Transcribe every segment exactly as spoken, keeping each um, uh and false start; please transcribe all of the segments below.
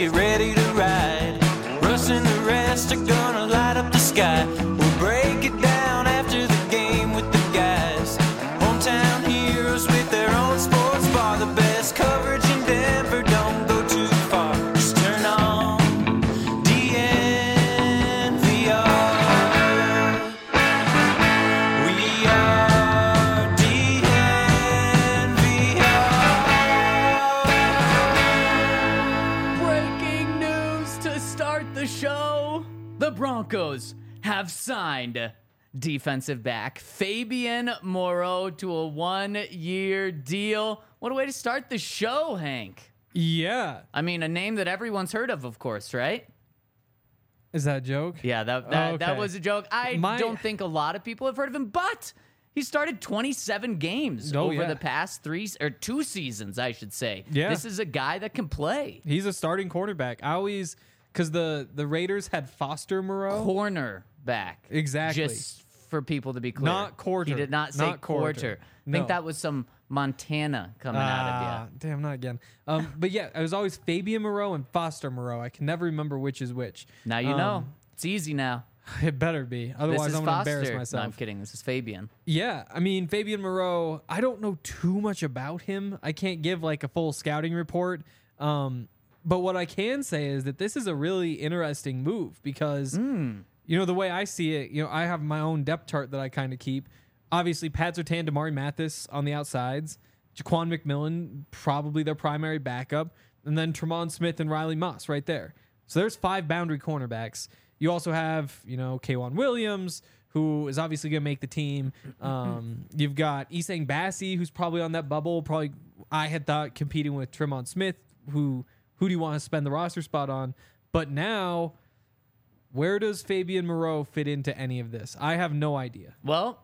get ready to ride. Russ and the rest are gonna light up the sky. We'll break it down after the game with the guys. Hometown heroes with their own sports bar. The best coverage in Denver, don't go too far. Just turn on D N V R. We are D N V R. Breaking news to start the show. The Broncos have signed defensive back Fabian Moreau to a one-year deal. What a way to start the show, Hank. Yeah. I mean, a name that everyone's heard of, of course, right? Is that a joke? Yeah, that that, that Okay. was a joke. I My- don't think a lot of people have heard of him, but he started twenty-seven games Oh, over yeah. the past three or two seasons, I should say. Yeah. This is a guy that can play. He's a starting cornerback. I always, because the, the Raiders had Foster Moreau. Corner back. Exactly. Just for people to be clear. Not quarter. He did not say Not quarter. quarter. I No. think that was some Montana coming out of Ah, you. damn, not again. Um, but yeah, it was always Fabian Moreau and Foster Moreau. I can never remember which is which. Now you Um, know. It's easy now. It better be. Otherwise, This is I'm going to Foster. embarrass No, myself. I'm kidding. This is Fabian. Yeah, I mean, Fabian Moreau, I don't know too much about him. I can't give like a full scouting report. Um, but what I can say is that this is a really interesting move because, Hmm. you know, the way I see it, you know, I have my own depth chart that I kind of keep. Obviously, Pat Surtain, Damari Mathis on the outsides, Jaquan McMillan, probably their primary backup, and then Tremont Smith and Riley Moss right there. So there's five boundary cornerbacks. You also have, you know, K'Wan Williams, who is obviously going to make the team. Um, you've got Isang Bassi, who's probably on that bubble. Probably, I had thought competing with Tremont Smith, who who do you want to spend the roster spot on? But now, where does Fabian Moreau fit into any of this? I have no idea. Well,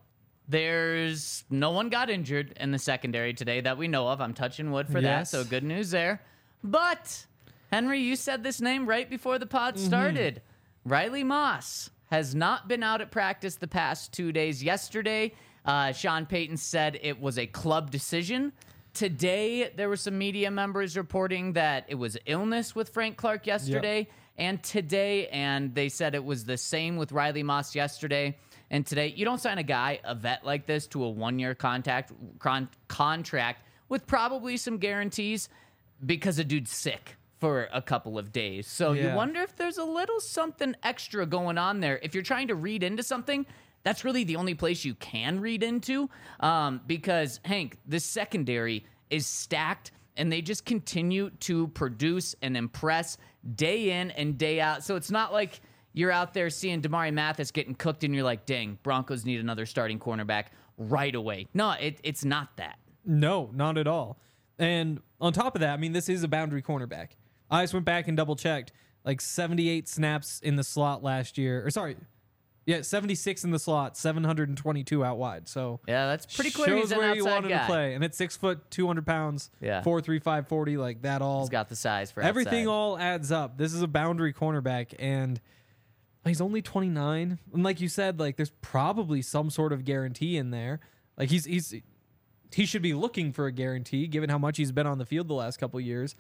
there's no one got injured in the secondary today that we know of. I'm touching wood for Yes. that, so good news there. But, Henry, you said this name right before the pod Mm-hmm. started. Riley Moss has not been out at practice the past two days. Yesterday, uh, Sean Payton said it was a club decision. Today, there were some media members reporting that it was illness with Frank Clark yesterday and today, and they said it was the same with Riley Moss yesterday and today. You don't sign a guy, a vet like this, to a one-year contact con- contract with probably some guarantees because a dude's sick for a couple of days. So you Yeah. wonder if there's a little something extra going on there. If you're trying to read into something, that's really the only place you can read into, um, because, Hank, this secondary is stacked, and they just continue to produce and impress day in and day out. So it's not like you're out there seeing Damari Mathis getting cooked, and you're like, dang, Broncos need another starting cornerback right away. No, it, it's not that. No, not at all. And on top of that, I mean, this is a boundary cornerback. I just went back and double checked. Like seventy-eight snaps in the slot last year. Or sorry. Yeah, seventy-six in the slot, seven hundred twenty-two out wide. So Yeah, that's pretty clear shows he's an where you outside wanted guy. to play. And at six foot, two hundred pounds, Yeah. four three five forty, like that all. He's got the size for everything outside. all adds up. This is a boundary cornerback, and he's only twenty-nine. And like you said, like there's probably some sort of guarantee in there. Like he's he's he should be looking for a guarantee given how much he's been on the field the last couple of years.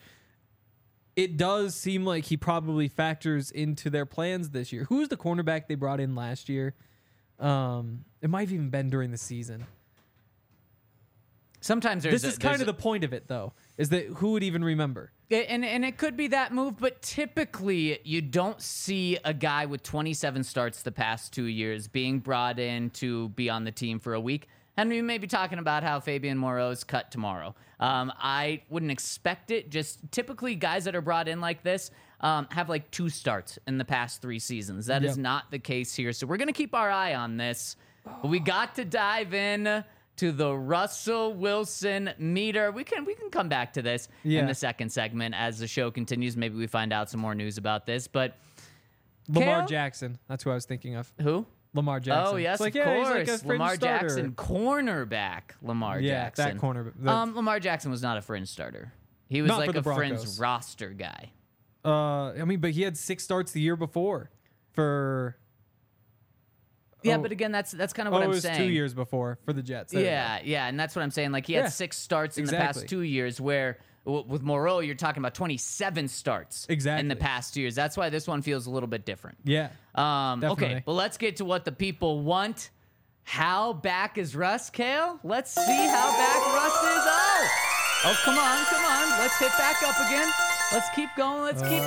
It does seem like he probably factors into their plans this year. Who's the cornerback they brought in last year? Um, it might have even been during the season. Sometimes there's This a- is kind there's of the point of it, though, is that who would even remember? a- and and it could be that move, but typically you don't see a guy with twenty-seven starts the past two years being brought in to be on the team for a week. Henry, we may be talking about how Fabian Moreau's cut tomorrow. Um, I wouldn't expect it. Just typically guys that are brought in like this um, have like two starts in the past three seasons. That is Yep. not the case here. So we're going to keep our eye on this. But we got to dive in to the Russell Wilson meter. We can we can come back to this Yeah. in the second segment as the show continues. Maybe we find out some more news about this. But Lamar Kale? Jackson. That's who I was thinking of. who? Lamar Jackson. Oh, yes, It's like, of yeah, course. he's like a fringe Lamar starter. Jackson, cornerback Lamar Yeah, Jackson. that corner- the- um, Lamar Jackson was not a fringe starter. He was Not like for the a fringe Broncos. roster guy. Uh, I mean, but he had six starts the year before for. Yeah, Oh. but again, that's that's kind of Oh, what it I'm was saying. two years before for the Jets. There you go. Yeah, yeah, and that's what I'm saying. Like he had Yeah, six starts in the past exactly. two years where w- with Moreau, you're talking about twenty-seven starts Exactly. in the past two years. That's why this one feels a little bit different. Yeah. Um, okay, Definitely. but let's get to what the people want. How back is Russ, Kale? Let's see how back Russ is. Oh, oh, come on, come on. Let's hit back up again. Let's keep going. Let's keep.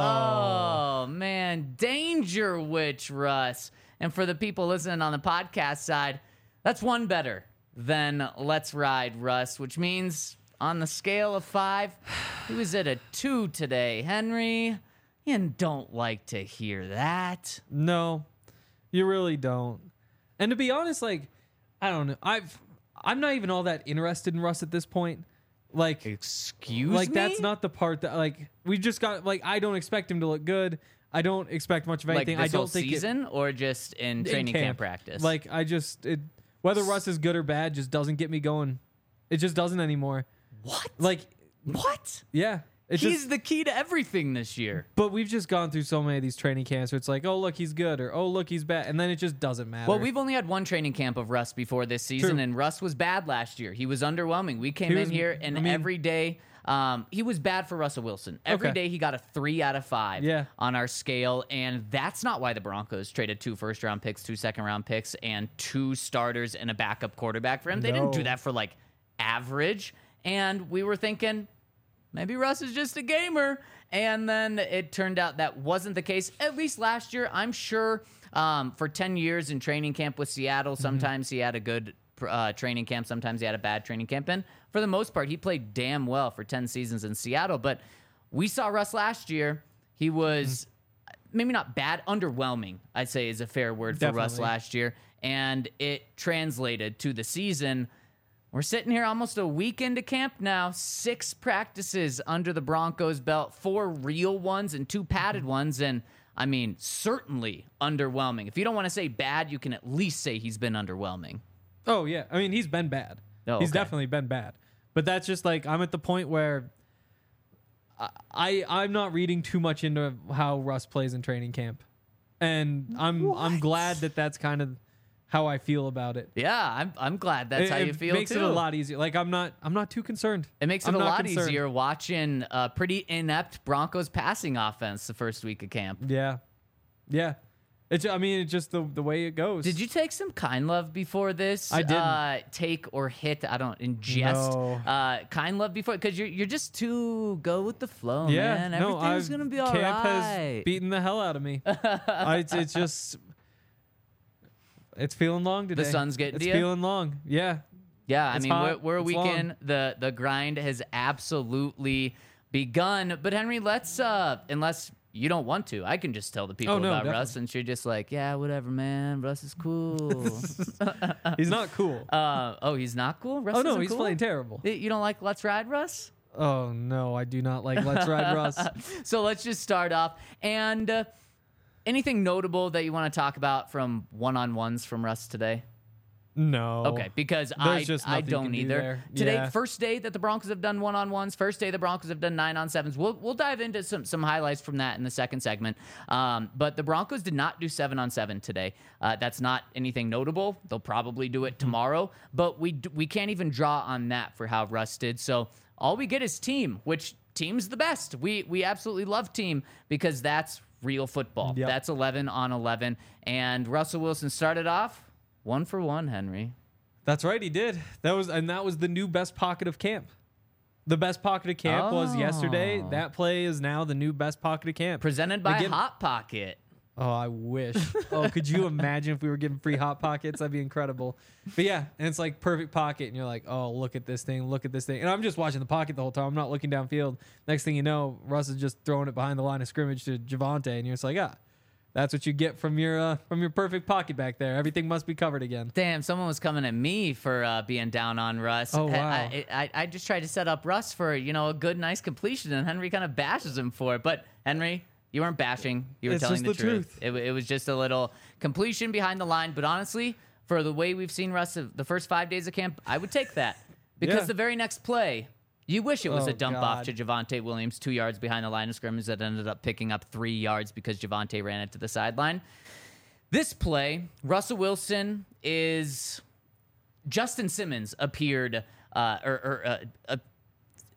Oh, man. Danger Witch Russ. And for the people listening on the podcast side, that's one better than Let's Ride Russ, which means on the scale of five, he was at a two today. Henry, you don't like to hear that. No, you really don't. And to be honest, like, I don't know. I've I'm not even all that interested in Russ at this point. Like, Excuse like me? that's not the part that like we just got. Like, I don't expect him to look good. I don't expect much of like anything. this I don't whole think it- season or just in in training camp, practice? Like, I just it, whether Russ is good or bad just doesn't get me going. It just doesn't anymore. what? Like, what? yeah, it's He's just. the key to everything this year. But we've just gone through so many of these training camps where it's like, oh look, he's good, or oh look, he's bad, and then it just doesn't matter. Well, we've only had one training camp of Russ before this season, True. and Russ was bad last year. He was underwhelming. We came He in was- here, and I mean- every day, um, he was bad for Russell Wilson. Every Okay. day he got a three out of five Yeah. on our scale, and that's not why the Broncos traded two first-round picks, two second-round picks, and two starters and a backup quarterback for him. They didn't do No. that for, like, average, and we were thinking, maybe Russ is just a gamer. And then it turned out that wasn't the case, at least last year. I'm sure um, for ten years in training camp with Seattle, sometimes he had a good uh, training camp, sometimes he had a bad training camp. And for the most part, he played damn well for ten seasons in Seattle. But we saw Russ last year. He was maybe not bad, underwhelming, I'd say is a fair word for Russ Definitely. last year. And it translated to the season. We're sitting here almost a week into camp now. Six practices under the Broncos' belt, four real ones and two padded ones. And, I mean, certainly underwhelming. If you don't want to say bad, you can at least say he's been underwhelming. Oh yeah, I mean he's been bad. Oh, He's okay. definitely been bad. But that's just like I'm at the point where I, I I'm not reading too much into how Russ plays in training camp, and I'm I'm glad that that's kind of how I feel about it. Yeah, I'm, I'm glad that's it, how you it feel, makes too. it a lot easier. Like I'm not I'm not too concerned. It makes it I'm a not lot concerned. easier watching a pretty inept Broncos passing offense the first week of camp. Yeah, yeah. It's I mean it's just the the way it goes. Did you take some Kind Love before this? I didn't. Uh, take or hit, I don't, ingest No. uh, Kind Love before? Because you're, you're just too go with the flow, Yeah, man. no, Everything's I've, going to be all camp right. has beaten the hell out of me. I, it's, it's just, it's feeling long today. sun's getting It's to you? feeling long. Yeah, Yeah, I It's mean, hot, we're, we're a it's weekend. long. The the grind has absolutely begun. But Henry, let's uh, unless you don't want to, I can just tell the people Oh, no, about definitely. Russ, and you're just like, yeah, whatever, man. Russ is cool. he's not cool. uh, oh, he's not cool. Russ oh no, isn't he's cool? playing terrible. You don't like Let's Ride Russ? Oh no, I do not like Let's Ride Russ. So let's just start off. And uh, anything notable that you want to talk about from one-on-ones from Russ today? No. Okay, because I, There's just I nothing you don't can do either. there. Today, Yeah. first day that the Broncos have done one-on-ones, first day the Broncos have done nine-on-sevens. We'll, we'll dive into some, some highlights from that in the second segment. Um, but the Broncos did not do seven-on-seven today. Uh, that's not anything notable. They'll probably do it tomorrow. But we, d- we can't even draw on that for how Russ did. So all we get is team, which team's the best. We, we absolutely love team because that's real football. Yep. That's eleven on eleven. And Russell Wilson started off one for one, Henry. That's right, he did. That was and that was the new best pocket of camp. The best pocket of camp was yesterday. Oh. That play is now the new best pocket of camp. Presented by Again- Hot Pocket. Oh, I wish. Oh, could you imagine if we were getting free hot pockets? That'd be incredible. But yeah, and it's like perfect pocket, and you're like, oh, look at this thing, look at this thing. And I'm just watching the pocket the whole time. I'm not looking downfield. Next thing you know, Russ is just throwing it behind the line of scrimmage to Javonte, and you're just like, ah, that's what you get from your uh, from your perfect pocket back there. Everything must be covered again. Damn, someone was coming at me for uh, being down on Russ. Oh, I- wow. I, I, I just tried to set up Russ for, you know, a good, nice completion, and Henry kind of bashes him for it. But, Henry, you weren't bashing. You were It's telling the, just the truth. truth. It, wa- it was just a little completion behind the line. But honestly, for the way we've seen Russ of the first five days of camp, I would take that. Because Yeah. the very next play, you wish it was Oh, a dump off God. to Javonte Williams, two yards behind the line of scrimmage that ended up picking up three yards because Javonte ran it to the sideline. This play, Russell Wilson is Justin Simmons appeared, uh, or, or uh, uh,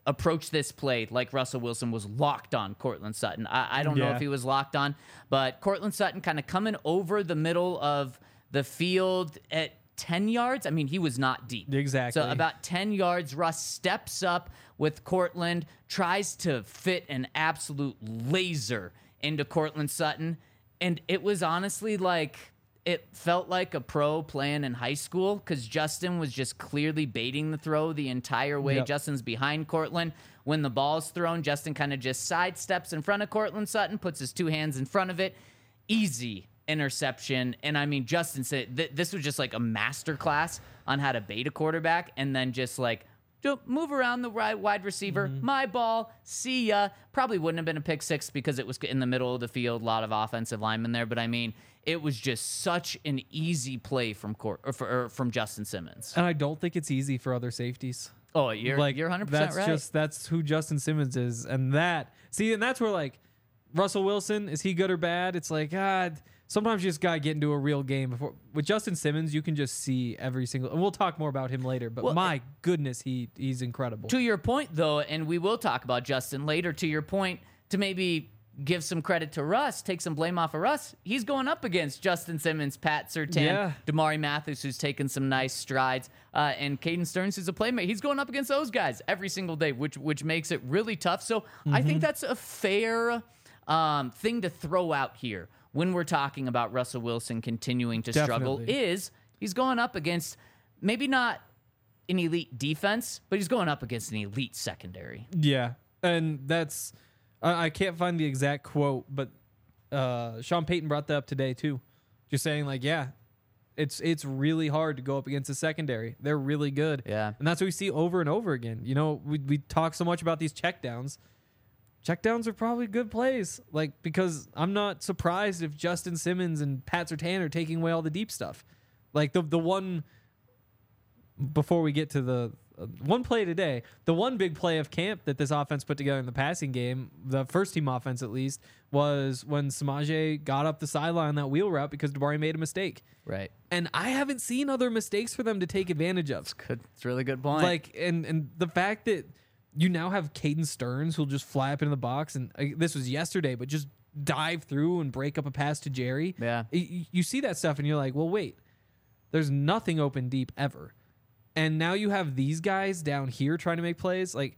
approach this play like Russell Wilson was locked on Cortland Sutton. I, I don't know Yeah. if he was locked on, but Cortland Sutton kind of coming over the middle of the field at ten yards. I mean, he was not deep. Exactly. So about ten yards, Russ steps up with Cortland, tries to fit an absolute laser into Cortland Sutton. And it was honestly like, it felt like a pro playing in high school because Justin was just clearly baiting the throw the entire way. Yep. Justin's behind Cortland. When the ball's thrown, Justin kind of just sidesteps in front of Cortland Sutton, puts his two hands in front of it. Easy interception. And I mean, Justin said th- this was just like a master class on how to bait a quarterback and then just like ju- move around the right wide receiver. Mm-hmm. My ball. See ya. Probably wouldn't have been a pick six because it was in the middle of the field. A lot of offensive linemen there. But I mean, it was just such an easy play from Cor- or, for, or from Justin Simmons. And I don't think it's easy for other safeties. Oh, you're like you're one hundred percent that's right. just that's who Justin Simmons is, and that see, and that's where like Russell Wilson, is he good or bad? It's like God. Sometimes you just gotta get into a real game before. With Justin Simmons, you can just see every single. And we'll talk more about him later. But Well, my goodness, he he's incredible. To your point, though, and we will talk about Justin later, to your point, to maybe give some credit to Russ, take some blame off of Russ, he's going up against Justin Simmons, Pat Surtain, Yeah. Damari Mathis, who's taken some nice strides, uh, and Caden Stearns, who's a playmaker. He's going up against those guys every single day, which which makes it really tough. So I Mm-hmm. think that's a fair um, thing to throw out here when we're talking about Russell Wilson continuing to struggle, Definitely. is he's going up against maybe not an elite defense, but he's going up against an elite secondary. Yeah, and that's I, I can't find the exact quote, but uh, Sean Payton brought that up today too, just saying like, yeah, it's it's really hard to go up against the secondary. They're really good. Yeah. and that's what we see over and over again. You know, we we talk so much about these checkdowns. Checkdowns are probably good plays, like because I'm not surprised if Justin Simmons and Pat Surtain are taking away all the deep stuff. Like the the one before we get to the uh, one play today, the one big play of camp that this offense put together in the passing game, the first team offense at least, was when Samaje got up the sideline on that wheel route because Damari made a mistake. Right. And I haven't seen other mistakes for them to take advantage of. Good. It's a really good point. Like, and and the fact that you now have Caden Stearns who'll just fly up into the box, and uh, this was yesterday, but just dive through and break up a pass to Jerry. Yeah. Y- you see that stuff, and you're like, well, wait, there's nothing open deep ever. And now you have these guys down here trying to make plays. Like,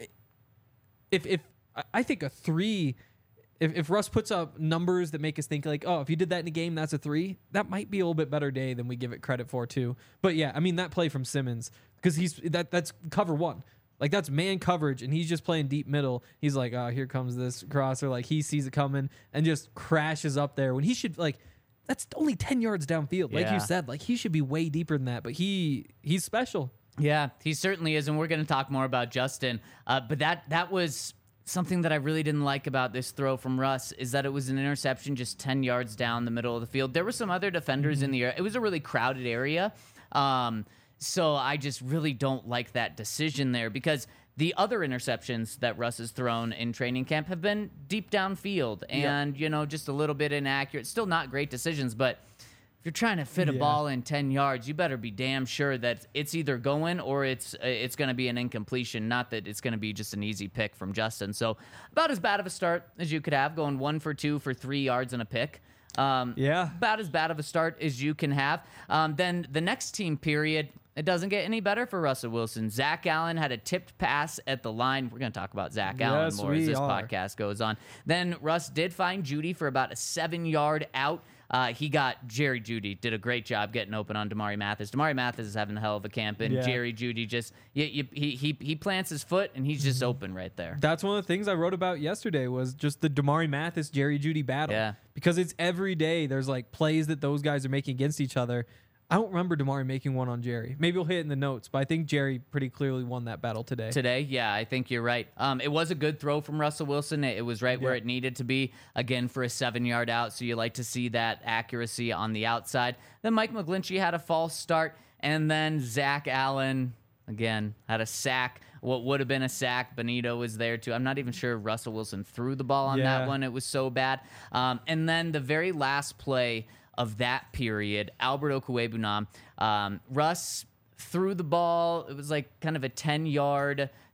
if if I think a three, if, if Russ puts up numbers that make us think like, oh, if you did that in a game, that's a three, that might be a little bit better day than we give it credit for too. But yeah, I mean that play from Simmons, because he's that that's cover one. Like that's man coverage, and he's just playing deep middle. He's like, oh, here comes this crosser. Like he sees it coming and just crashes up there when he should like. That's only ten yards downfield, like Yeah. you said. Like he should be way deeper than that, but he he's special. Yeah, he certainly is, and we're going to talk more about Justin. Uh, but that that was something that I really didn't like about this throw from Russ, is that it was an interception just ten yards down the middle of the field. There were some other defenders Mm-hmm. in the area. It was a really crowded area. Um, so I just really don't like that decision there, because the other interceptions that Russ has thrown in training camp have been deep downfield and, you know, just a little bit inaccurate. Still not great decisions, but if you're trying to fit a Yeah. ball in ten yards, you better be damn sure that it's either going or it's it's going to be an incompletion, not that it's going to be just an easy pick from Justin. So about as bad of a start as you could have, going one for two for three yards and a pick. Um, Yeah. About as bad of a start as you can have. Um, then the next team period, it doesn't get any better for Russell Wilson. Zach Allen had a tipped pass at the line. We're going to talk about Zach Allen Yes, more as we this are. podcast goes on. Then Russ did find Judy for about a seven-yard out. Uh, he got Jerry Judy, did a great job getting open on Damari Mathis. Damari Mathis is having a hell of a camp, and Yeah. Jerry Judy just you, you, he he he plants his foot, and he's Mm-hmm. just open right there. That's one of the things I wrote about yesterday was just the Damari Mathis, Jerry Judy battle. Yeah. Because it's every day there's like plays that those guys are making against each other. I don't remember Damari making one on Jerry. Maybe we'll hit it in the notes, but I think Jerry pretty clearly won that battle today. Today, yeah, I think you're right. Um, it was a good throw from Russell Wilson. It, it was right where Yeah. it needed to be, again, for a seven-yard out, so you like to see that accuracy on the outside. Then Mike McGlinchey had a false start, and then Zach Allen, again, had a sack. What would have been a sack, Benito was there, too. I'm not even sure Russell Wilson threw the ball on Yeah. that one. It was so bad. Um, and then the very last play of that period, Albert Okwuegbunam, um, Russ threw the ball. It was like kind of a ten-yard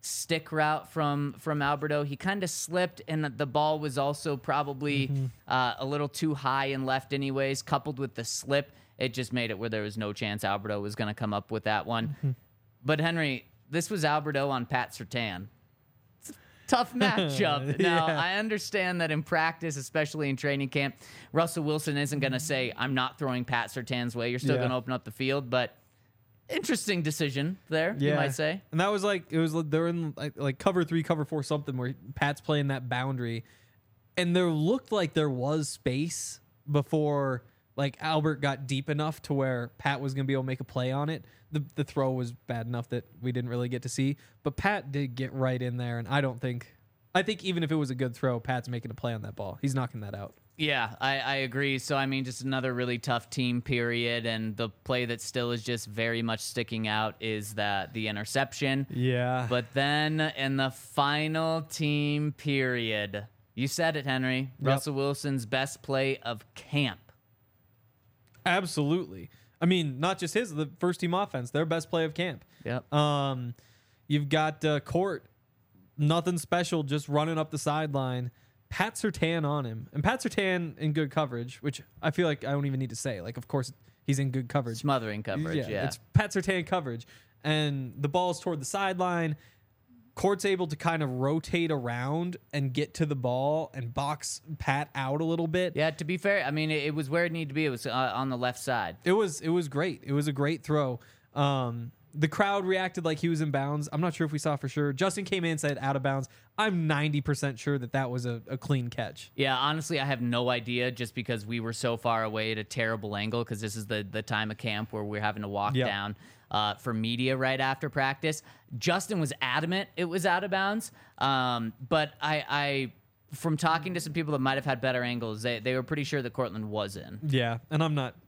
stick route from from Alberto. He kind of slipped, and the ball was also probably Mm-hmm. uh, a little too high and left anyways, coupled with the slip. It just made it where there was no chance Alberto was going to come up with that one. Mm-hmm. But, Henry, this was Alberto on Pat Surtain. It's a tough matchup. Now, Yeah. I understand that in practice, especially in training camp, Russell Wilson isn't going to say, I'm not throwing Pat Surtain's way. You're still Yeah. going to open up the field, but interesting decision there, you might say. And that was like it was like they're in like, like cover three, cover four, something where Pat's playing that boundary, and there looked like there was space before like Albert got deep enough to where Pat was gonna be able to make a play on it. The the throw was bad enough that we didn't really get to see, but Pat did get right in there, and I don't think I think even if it was a good throw, Pat's making a play on that ball. He's knocking that out. Yeah, I, I agree. So, I mean, just another really tough team period, and the play that still is just very much sticking out is that the interception. Yeah. But then in the final team period, you said it, Henry, Yep. Russell Wilson's best play of camp. Absolutely. I mean, not just his, the first team offense, their best play of camp. Yep. Um, you've got uh, Court, nothing special, just running up the sideline. Pat Surtain on him, and Pat Surtain in good coverage, which I feel like I don't even need to say. Like, of course, he's in good coverage. Smothering coverage, yeah. It's Pat Surtain coverage, and the ball's toward the sideline. Court's able to kind of rotate around and get to the ball and box Pat out a little bit. Yeah, to be fair, I mean, it, it was where it needed to be. It was uh, on the left side. It was it was great. It was a great throw. Um, the crowd reacted like he was in bounds. I'm not sure if we saw for sure. Justin came in and said out of bounds. I'm ninety percent sure that that was a, a clean catch. Yeah, honestly, I have no idea just because we were so far away at a terrible angle because this is the, the time of camp where we're having to walk Yep. down uh, for media right after practice. Justin was adamant it was out of bounds, um, but I, I, from talking to some people that might have had better angles, they, they were pretty sure that Cortland was in. Yeah, and I'm not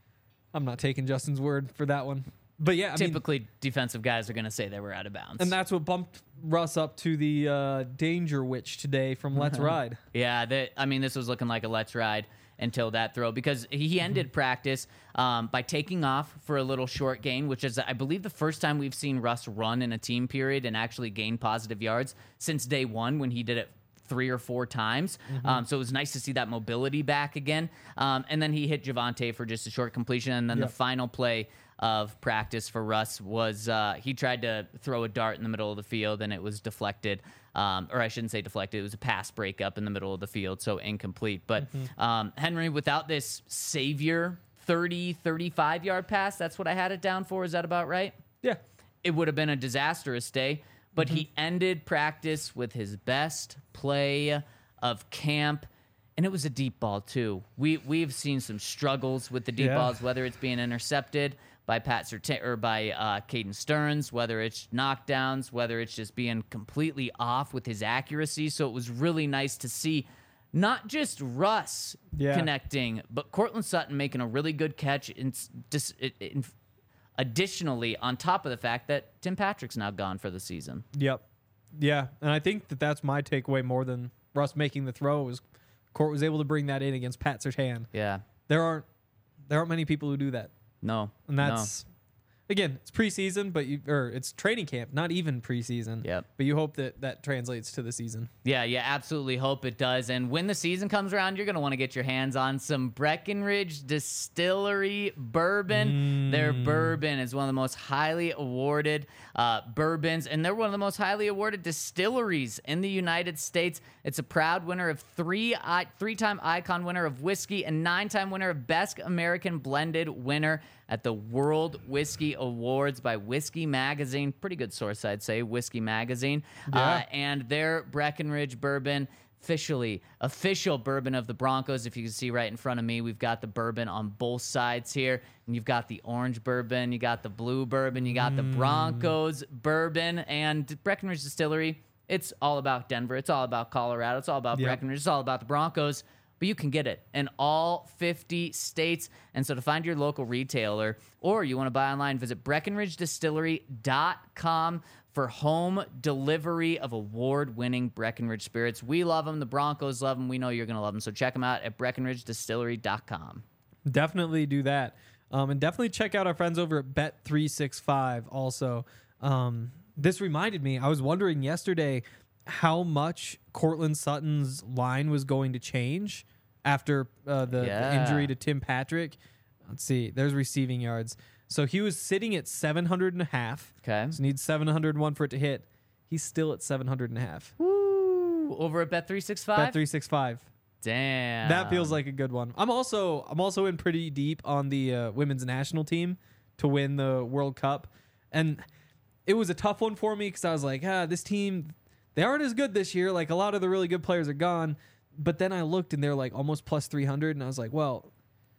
I'm not taking Justin's word for that one. But yeah, I mean, Typically, defensive guys are going to say they were out of bounds. and that's what bumped Russ up to the uh, danger witch today from Let's Ride. Yeah, that, I mean, this was looking like a let's ride until that throw because he ended practice um, by taking off for a little short gain, which is, I believe, the first time we've seen Russ run in a team period and actually gain positive yards since day one when he did it three or four times. Um, so it was nice to see that mobility back again. Um, and then he hit Javonte for just a short completion. And then Yep. the final play of practice for Russ was uh, he tried to throw a dart in the middle of the field and it was deflected. Um, or I shouldn't say deflected. It was a pass breakup in the middle of the field, so incomplete. But um, Henry, without this savior thirty, thirty-five yard pass, that's what I had it down for. Is that about right? Yeah. It would have been a disastrous day. But Mm-hmm. he ended practice with his best play of camp. And it was a deep ball, too. We, we've seen some struggles with the deep Yeah. balls, whether it's being intercepted by Pat Surtain or by uh, Caden Stearns, whether it's knockdowns, whether it's just being completely off with his accuracy. So it was really nice to see not just Russ Yeah. connecting, but Cortland Sutton making a really good catch. In, in, in, additionally, on top of the fact that Tim Patrick's now gone for the season. Yep. Yeah, and I think that that's my takeaway more than Russ making the throw was Court was able to bring that in against Pat Surtain. Yeah. There aren't there aren't many people who do that. No. And that's again, it's preseason, but you or it's training camp, not even preseason. Yep. But you hope that that translates to the season. Yeah, yeah, absolutely hope it does. And when the season comes around, you're going to want to get your hands on some Breckenridge Distillery bourbon. Their bourbon is one of the most highly awarded uh, bourbons, and they're one of the most highly awarded distilleries in the United States. It's a proud winner of three I- three-time Icon winner of whiskey and nine-time winner of Best American Blended winner at the World Whiskey Awards by Whiskey Magazine. Pretty good source, I'd say, Whiskey Magazine. Yeah. Uh, and their Breckenridge bourbon, officially, official bourbon of the Broncos. If you can see right in front of me, we've got the bourbon on both sides here. And you've got the orange bourbon, you got the blue bourbon, you got the Broncos bourbon, and Breckenridge Distillery. It's all about Denver. It's all about Colorado. It's all about Yep. Breckenridge. It's all about the Broncos. But you can get it in all fifty states. And so to find your local retailer or you want to buy online, visit Breckenridge Distillery dot com for home delivery of award-winning Breckenridge spirits. We love them. The Broncos love them. We know you're going to love them. So check them out at Breckenridge Distillery dot com. Definitely do that. Um, and definitely check out our friends over at Bet three sixty-five also. Um, This reminded me, I was wondering yesterday how much Cortland Sutton's line was going to change after uh, the, Yeah. the injury to Tim Patrick. Let's see. There's receiving yards. So he was sitting at seven hundred and a half. Okay. So needs seven hundred one for it to hit. He's still at seven hundred and a half. Woo! Over at Bet three sixty-five? Bet three sixty-five. Damn. That feels like a good one. I'm also I'm also in pretty deep on the uh, women's national team to win the World Cup, and it was a tough one for me because I was like, ah, this team, they aren't as good this year. Like a lot of the really good players are gone, but then I looked and they're like almost plus three hundred, and I was like, well,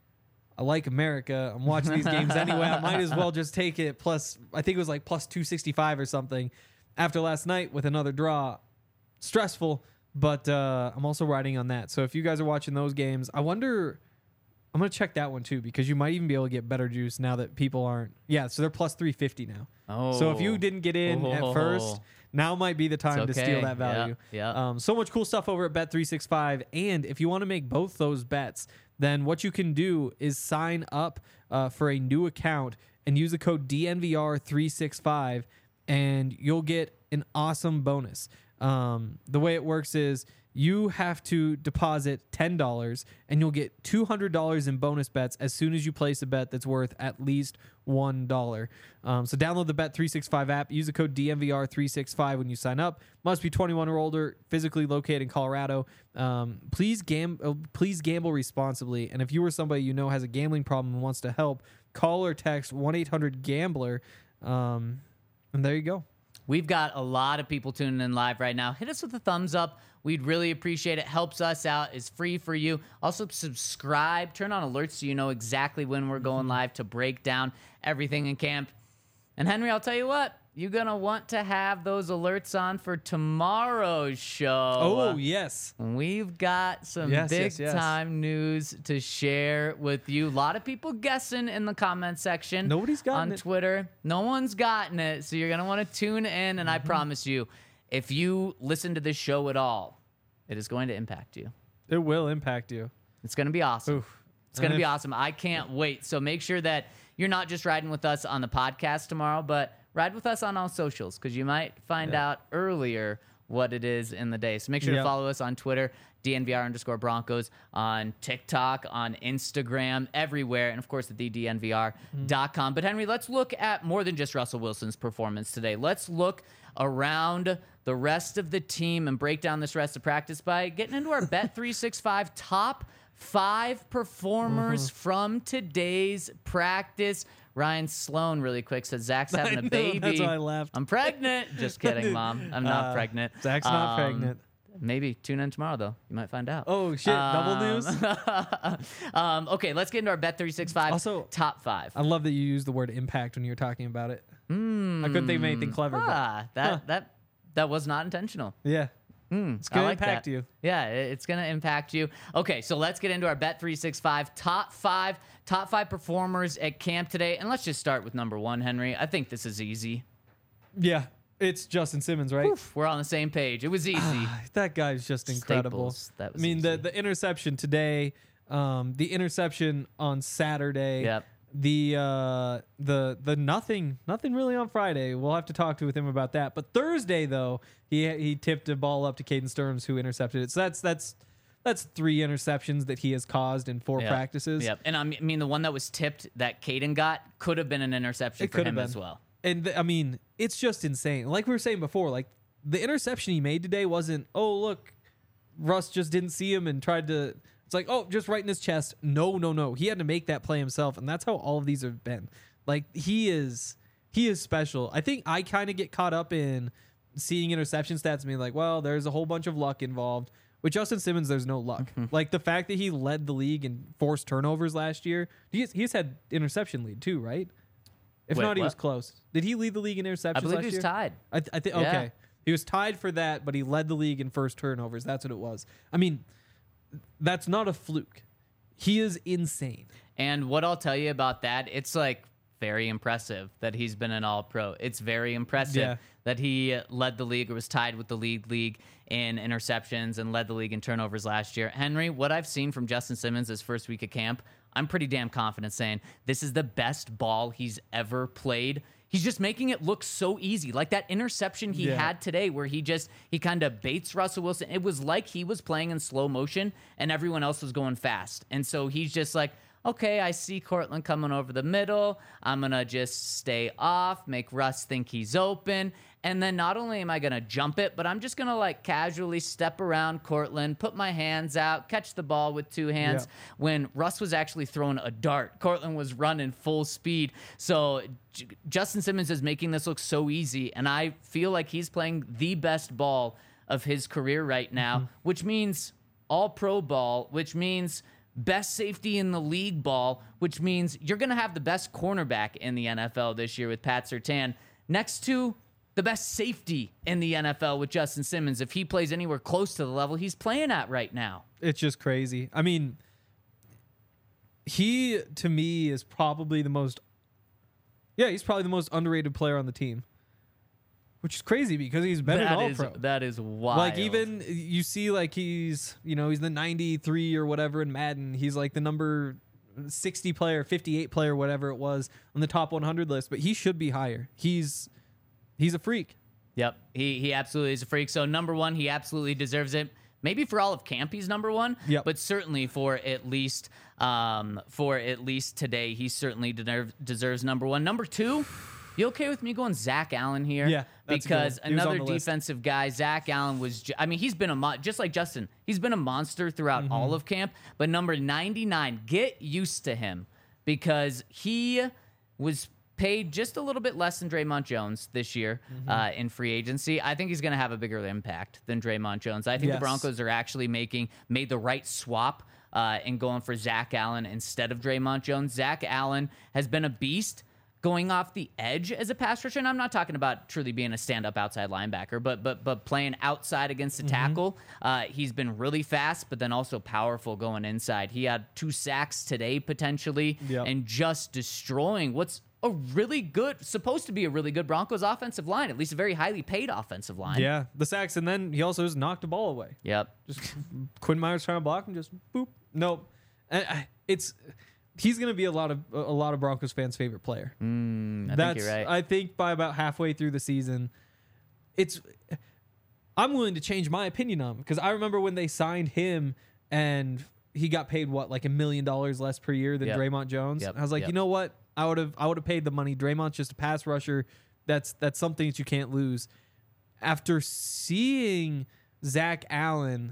I like America. I'm watching these games anyway. I might as well just take it. Plus, I think it was like plus two sixty-five or something. After last night with another draw, stressful. But uh, I'm also riding on that. So if you guys are watching those games, I wonder. I'm gonna check that one too because you might even be able to get better juice now that people aren't. Yeah, so they're plus three fifty now. Oh. So if you didn't get in Oh. at first, now might be the time It's to steal okay. that value. Yeah, yeah. Um, so much cool stuff over at Bet three sixty-five. And if you want to make both those bets, then what you can do is sign up uh, for a new account and use the code D N V R three sixty-five, and you'll get an awesome bonus. Um, the way it works is you have to deposit ten dollars and you'll get two hundred dollars in bonus bets as soon as you place a bet that's worth at least one dollar. Um, so download the Bet three sixty-five app. Use the code D N V R three sixty-five when you sign up. Must be twenty-one or older, physically located in Colorado. Um, please, gam- uh, please gamble responsibly. And if you or somebody you know has a gambling problem and wants to help, call or text one eight hundred gambler. Um, and there you go. We've got a lot of people tuning in live right now. Hit us with a thumbs up. We'd really appreciate it. Helps us out. It's free for you. Also, subscribe. Turn on alerts so you know exactly when we're going live to break down everything in camp. And Henry, I'll tell you what. You're going to want to have those alerts on for tomorrow's show. Oh, yes. We've got some Yes, big yes, yes. time news to share with you. A lot of people guessing in the comment section. Nobody's gotten on it. Twitter. No one's gotten it. So you're going to want to tune in. And I promise you, if you listen to this show at all, it is going to impact you. It will impact you. It's going to be awesome. Oof. It's going to And be if- awesome. I can't wait. So make sure that you're not just riding with us on the podcast tomorrow, but ride with us on all socials because you might find Yeah. out earlier what it is in the day. So make sure Yep. to follow us on Twitter, D N V R underscore Broncos, on TikTok, on Instagram, everywhere, and of course at the D N V R dot com. But Henry, let's look at more than just Russell Wilson's performance today. Let's look around the rest of the team and break down this rest of practice by getting into our Bet three sixty-five top five performers from today's practice. Ryan Sloan, really quick, said Zach's having I a know, baby. that's why I laughed. I'm pregnant. Just kidding, Mom. I'm not Uh, pregnant. Zach's not Um, pregnant. Maybe tune in tomorrow, though. You might find out. Oh, shit. Double Um, news? um, okay, let's get into our Bet three sixty-five Also- top five. I love that you used the word impact when you were talking about it. I couldn't think of anything clever. Ah, that Huh. that that was not intentional. But yeah. Mm, It's going I to like impact that. you. Yeah, it- it's going to impact you. Okay, so let's get into our Bet three sixty-five top five, top five performers at camp today. And let's just start with number one, Henry. I think this is easy. Yeah. It's Justin Simmons, right? Oof, we're on the same page. It was easy. Ah, that guy's just incredible. Staples, that was I mean, the, easy. the interception today, um, the interception on Saturday, Yep. the uh, the the nothing nothing really on Friday. We'll have to talk to with him about that. But Thursday though, he he tipped a ball up to Caden Stearns who intercepted it. So that's that's that's three interceptions that he has caused in four Yep. practices. Yep. And I mean, I mean, the one that was tipped that Caden got could have been an interception It for could have him been as well. And th- I mean, it's just insane. Like we were saying before, like the interception he made today wasn't, oh, look, Russ just didn't see him and tried to. It's like, oh, just right in his chest. No, no, no. He had to make that play himself. And that's how all of these have been. Like he is, he is special. I think I kind of get caught up in seeing interception stats and being like, well, there's a whole bunch of luck involved. With Justin Simmons, there's no luck. Like the fact that he led the league in forced turnovers last year, he's, he's had interception lead too, right? If Wait, not, he what? was close. Did he lead the league in interceptions I believe last he was year? tied. I, th- I think Yeah. okay. He was tied for that, but he led the league in first turnovers. That's what it was. I mean, that's not a fluke. He is insane. And what I'll tell you about that, it's like very impressive that he's been an all-pro. It's very impressive Yeah. that he led the league or was tied with the lead league in interceptions and led the league in turnovers last year. Henry, what I've seen from Justin Simmons his first week of camp, I'm pretty damn confident saying this is the best ball he's ever played. He's just making it look so easy. Like that interception he Yeah. had today where he just, he kind of baits Russell Wilson. It was like he was playing in slow motion and everyone else was going fast. And so he's just like, okay, I see Cortland coming over the middle. I'm going to just stay off, make Russ think he's open. And then not only am I going to jump it, but I'm just going to like casually step around Cortland, put my hands out, catch the ball with two hands. Yeah. When Russ was actually throwing a dart, Cortland was running full speed. So J- Justin Simmons is making this look so easy. And I feel like he's playing the best ball of his career right now, mm-hmm. which means all pro ball, which means best safety in the league ball, which means you're going to have the best cornerback in the N F L this year with Pat Surtain, next to the best safety in the N F L with Justin Simmons if he plays anywhere close to the level he's playing at right now. It's just crazy. I mean, he, to me, is probably the most, yeah, he's probably the most underrated player on the team. Which is crazy because he's been That an is all-pro. that is wild. Like even you see like he's, you know, he's the ninety-three or whatever in Madden. He's like the number sixty player, fifty-eight player, whatever it was on the top one hundred list, but he should be higher. He's he's a freak. Yep. He he absolutely is a freak. So number one, he absolutely deserves it. Maybe for all of camp, he's number one. Yep. But certainly for at least um for at least today, he certainly deserve, deserves number one. Number two, you okay with me going Zach Allen here? Yeah, that's because good. He was on another the list. defensive guy, Zach Allen was. Ju- I mean, he's been a mo- just like Justin. He's been a monster throughout Mm-hmm. all of camp. But number ninety-nine, get used to him because he was paid just a little bit less than Draymond Jones this year Mm-hmm. uh, in free agency. I think he's going to have a bigger impact than Draymond Jones. I think Yes. the Broncos are actually making made the right swap uh, in going for Zach Allen instead of Draymond Jones. Zach Allen has been a beast going off the edge as a pass rusher. And I'm not talking about truly being a stand-up outside linebacker, but but but playing outside against the Mm-hmm. tackle. Uh, he's been really fast, but then also powerful going inside. He had two sacks today potentially, Yep. and just destroying what's a really good, supposed to be a really good Broncos offensive line, at least a very highly paid offensive line. Yeah, the sacks, and then he also just knocked the ball away. Yep. Just Quinn Myers trying to block and just boop. Nope. And I- it's he's going to be a lot of a lot of Broncos fans' favorite player. Mm, I That's think you're right. I think by about halfway through the season, it's I'm willing to change my opinion on him because I remember when they signed him and he got paid what like a million dollars less per year than Yep. Draymond Jones. Yep. I was like, Yep. you know what? I would have I would have paid the money. Draymond's just a pass rusher. That's that's something that you can't lose. After seeing Zach Allen,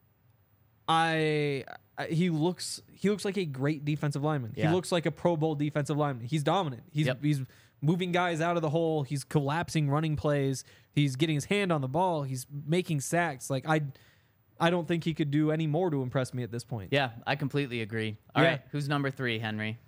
I, I he looks he looks like a great defensive lineman. Yeah. He looks like a Pro Bowl defensive lineman. He's dominant. He's Yep. he's moving guys out of the hole. He's collapsing running plays. He's getting his hand on the ball. He's making sacks. Like I I don't think he could do any more to impress me at this point. Yeah, I completely agree. All Yeah. right, who's number three, Henry?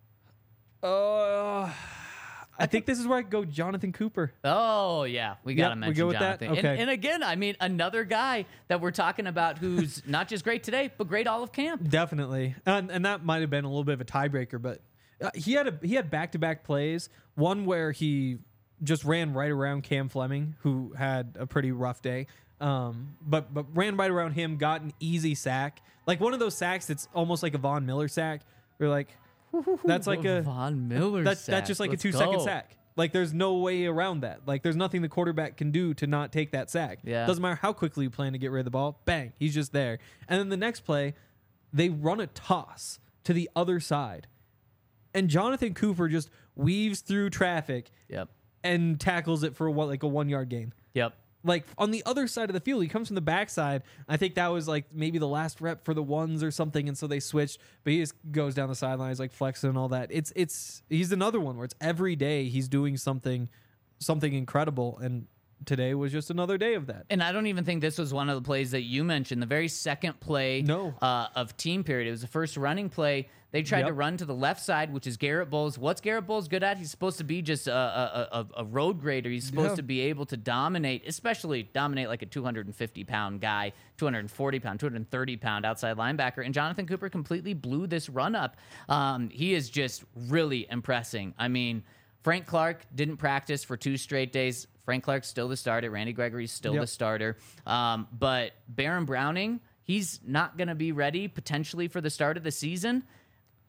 Uh I think this is where I go Jonathan Cooper. Oh, yeah. We got to Yep, we mention go with that? Jonathan. And, Okay. and again, I mean, another guy that we're talking about who's not just great today, but great all of camp. Definitely, and, and that might have been a little bit of a tiebreaker, but uh, he had a he had back to back plays. One where he just ran right around Cam Fleming, who had a pretty rough day, um, but but ran right around him, got an easy sack, like one of those sacks that's almost like a Von Miller sack. We're like, that's like a Von Miller that's sack. that's just like Let's a two second go. sack. Like there's no way around that. Like there's nothing the quarterback can do to not take that sack. Yeah. Doesn't matter how quickly you plan to get rid of the ball. Bang, he's just there. And then the next play, they run a toss to the other side. And Jonathan Cooper just weaves through traffic Yep. and tackles it for what like a one yard gain. Yep. Like on the other side of the field, he comes from the backside. I think that was like maybe the last rep for the ones or something, and so they switched. But he just goes down the sidelines like flexing and all that. It's it's he's another one where it's every day he's doing something something incredible, and today was just another day of that. And I don't even think this was one of the plays that you mentioned. The very second play No. uh, of team period. It was the first running play. They tried to Yep. run to the left side, which is Garrett Bowles. What's Garrett Bowles good at? He's supposed to be just a, a, a, a road grader. He's supposed Yeah. to be able to dominate, especially dominate like a two hundred fifty pound guy, two hundred forty pound, two hundred thirty pound outside linebacker. And Jonathan Cooper completely blew this run up. Um, he is just really impressing. I mean, Frank Clark didn't practice for two straight days. Frank Clark's still the starter. Randy Gregory's still Yep. the starter. Um, but Baron Browning, he's not going to be ready potentially for the start of the season.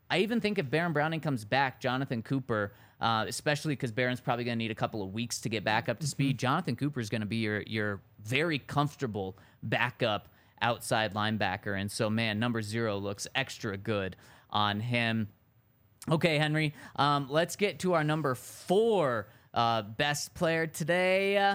I even think if Baron Browning comes back, Jonathan Cooper, uh, especially because Baron's probably going to need a couple of weeks to get back up to speed, Jonathan Cooper is going to be your your very comfortable backup outside linebacker. And so, man, number zero looks extra good on him. Okay, Henry, um, let's get to our number four uh, best player today. Uh,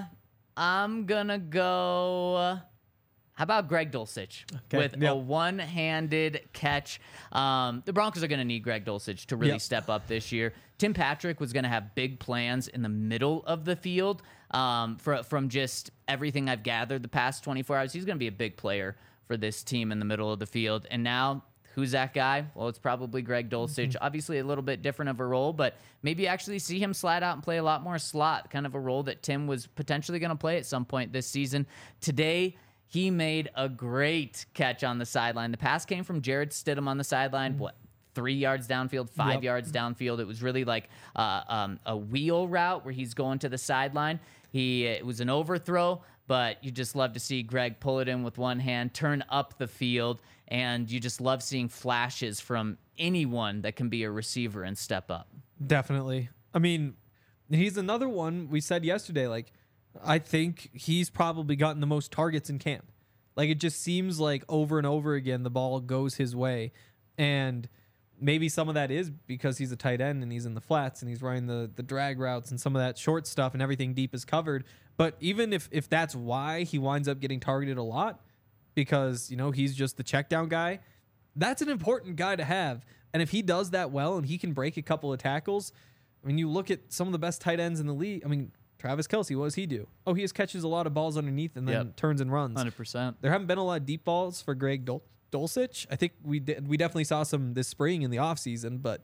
I'm going to go... Uh, How about Greg Dulcich Okay, with yep. a one-handed catch? Um, the Broncos are going to need Greg Dulcich to really Yep. step up this year. Tim Patrick was going to have big plans in the middle of the field. Um, for, from just everything I've gathered the past twenty-four hours, he's going to be a big player for this team in the middle of the field. And now, who's that guy? Well, it's probably Greg Dulcich. Mm-hmm. Obviously, a little bit different of a role, but maybe actually see him slide out and play a lot more slot, kind of a role that Tim was potentially going to play at some point this season. Today, he made a great catch on the sideline. The pass came from Jared Stidham on the sideline. What, three yards downfield, five Yep. yards downfield? It was really like uh, um, a wheel route where he's going to the sideline. He it was an overthrow, but you just love to see Greg pull it in with one hand, turn up the field, and you just love seeing flashes from anyone that can be a receiver and step up. Definitely. I mean, he's another one we said yesterday, like, I think he's probably gotten the most targets in camp. Like, it just seems like over and over again the ball goes his way. And maybe some of that is because he's a tight end and he's in the flats and he's running the, the drag routes and some of that short stuff and everything deep is covered. But even if, if that's why he winds up getting targeted a lot, because, you know, he's just the check down guy, that's an important guy to have. And if he does that well and he can break a couple of tackles, I mean, you look at some of the best tight ends in the league. I mean, Travis Kelce, what does he do? Oh, he just catches a lot of balls underneath and then Yep. turns and runs. one hundred percent. There haven't been a lot of deep balls for Greg Dul- Dulcich. I think we did, we definitely saw some this spring in the offseason, but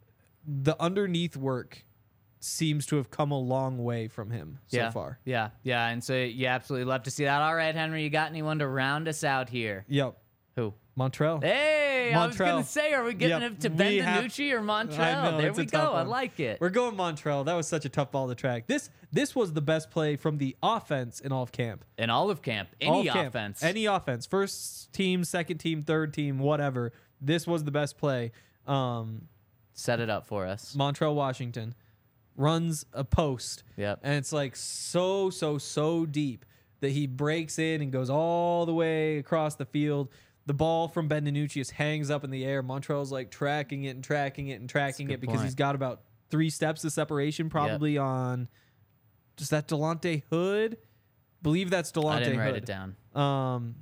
the underneath work seems to have come a long way from him so yeah. far. Yeah, yeah. And so you absolutely love to see that. All right, Henry, you got anyone to round us out here? Yep. Who? Montreal. Hey, I was Montrell. going to say, are we getting Yep, him to we have- Benvenucci or Montrell? I know, There it's we a tough go. I one. like it. We're going Montreal. That was such a tough ball to track. This this was the best play from the offense in all of camp. In all of camp, All any of camp. offense. Any offense. First team, second team, third team, whatever. This was the best play. Um, Set it up for us. Montreal, Washington runs a post. Yep. And it's like so, so, so deep that he breaks in and goes all the way across the field. The ball from Ben DiNucci just hangs up in the air. Montreal's like tracking it and tracking it and tracking good it because point. he's got about three steps of separation probably on just that Delonte Hood. Believe that's Delonte I didn't Hood. write it down. Um,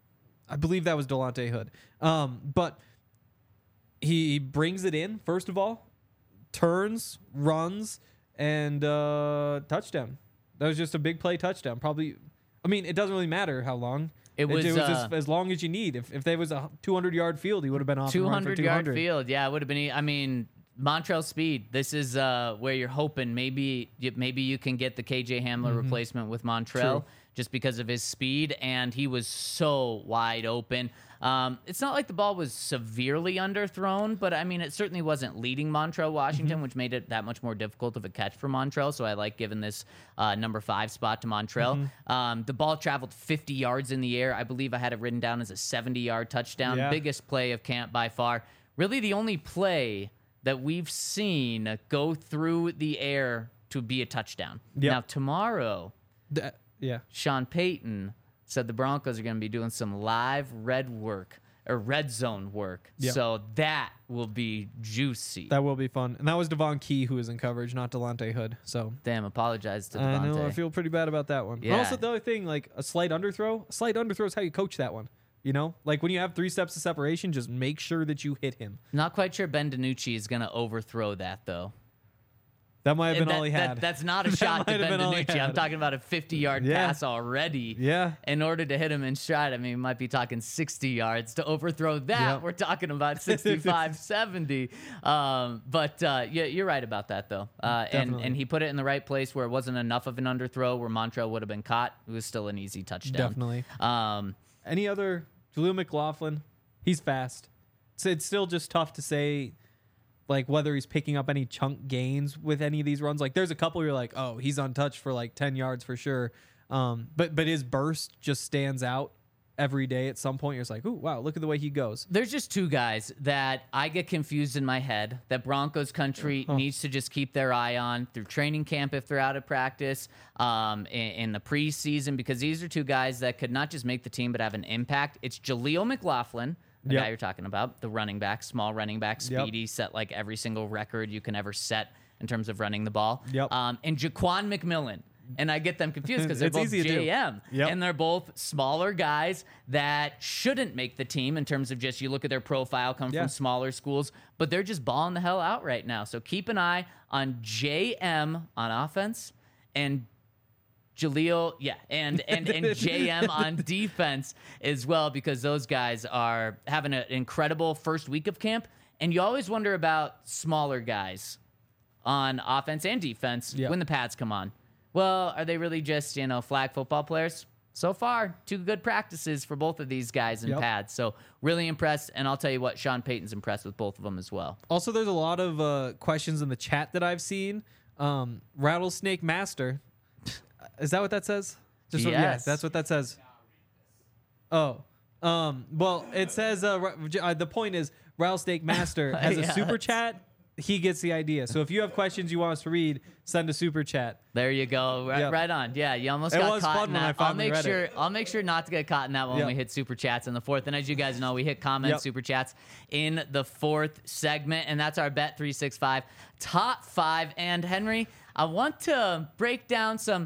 I believe that was Delonte Hood. Um, but he brings it in, first of all, turns, runs, and uh, touchdown. That was just a big play touchdown. Probably, I mean, it doesn't really matter how long. It was, uh, just as long as you need. If if there was a two hundred yard field, he would have been off and two running for hundred two yard hundred. field. Yeah, it would have been. I mean, Montreal speed. This is uh, where you're hoping maybe you- maybe you can get the K J Hamler replacement with Montreal True. just because of his speed, and he was so wide open. Um, it's not like the ball was severely underthrown, but I mean, it certainly wasn't leading Montreal Washington, which made it that much more difficult of a catch for Montreal. So I like giving this uh, number five spot to Montreal. Um, the ball traveled fifty yards in the air. I believe I had it written down as a seventy yard touchdown. Yeah. Biggest play of camp by far. Really the only play that we've seen go through the air to be a touchdown. Yep. Now, tomorrow, That- yeah. Sean Payton said the Broncos are going to be doing some live red work or red zone work. Yep. So that will be juicy. That will be fun. And that was Devon Key who was in coverage, not Delonte Hood. So Damn, apologize to I know. Devontae. I feel pretty bad about that one. And Yeah. also, the other thing, like a slight underthrow, a slight underthrow is how you coach that one. You know, like when you have three steps of separation, just make sure that you hit him. Not quite sure Ben DiNucci is going to overthrow that, though. That might have been that, all he that- had. that's not a That shot to might have Ben been all he DiNucci. I'm had. talking about a fifty yard Yeah. pass already. Yeah. In order to hit him in stride, I mean, we might be talking sixty yards. To overthrow that, Yep. we're talking about sixty-five, seventy. Um, but uh, yeah, you're right about that, though. Uh, and, Definitely. and he put it in the right place where it wasn't enough of an underthrow where Montreal would have been caught. It was still an easy touchdown. Definitely. Um, Any other? Julio McLaughlin, he's fast. So it's still just tough to say, like, whether he's picking up any chunk gains with any of these runs. Like, there's a couple where you're like, oh, he's untouched for like ten yards for sure. Um, but but his burst just stands out every day at some point. You're just like, ooh, wow, look at the way he goes. There's just two guys that I get confused in my head that Broncos country Huh. needs to just keep their eye on through training camp if they're out of practice, um, in, in the preseason, because these are two guys that could not just make the team but have an impact. It's Jaleel McLaughlin, the Yep. guy you're talking about, the running back, small running back, Yep. speedy, set like every single record you can ever set in terms of running the ball. Yep. Um, and Jaquan McMillan. And I get them confused because they're It's both easy to do. J M. Yep. And they're both smaller guys that shouldn't make the team in terms of just you look at their profile, come Yeah. from smaller schools, but they're just balling the hell out right now. So keep an eye on J M on offense and Jaleel, yeah, and and and J M on defense as well, because those guys are having an incredible first week of camp. And you always wonder about smaller guys on offense and defense Yeah. when the pads come on. Well, are they really just, you know, flag football players? So far, two good practices for both of these guys in Yep. pads. So really impressed. And I'll tell you what, Sean Payton's impressed with both of them as well. Also, there's a lot of uh, questions in the chat that I've seen. Um, Rattlesnake Master. Is that what that says? Just what- yeah, Yes. that's what that says. Oh. Um, well, it says uh, Ra- J- uh, the point is Rattlesnake Master has a Yeah. super chat. He gets the idea. So if you have questions you want us to read, send a super chat. There you go. Right, Yep. right on. Yeah, you almost It got was caught fun in when I that. I'll finally make read sure it. I'll make sure not to get caught in that when Yep. we hit super chats in the fourth. And as you guys know, we hit comments, Yep. super chats in the fourth segment, and that's our Bet three sixty-five top five. And Henry, I want to break down some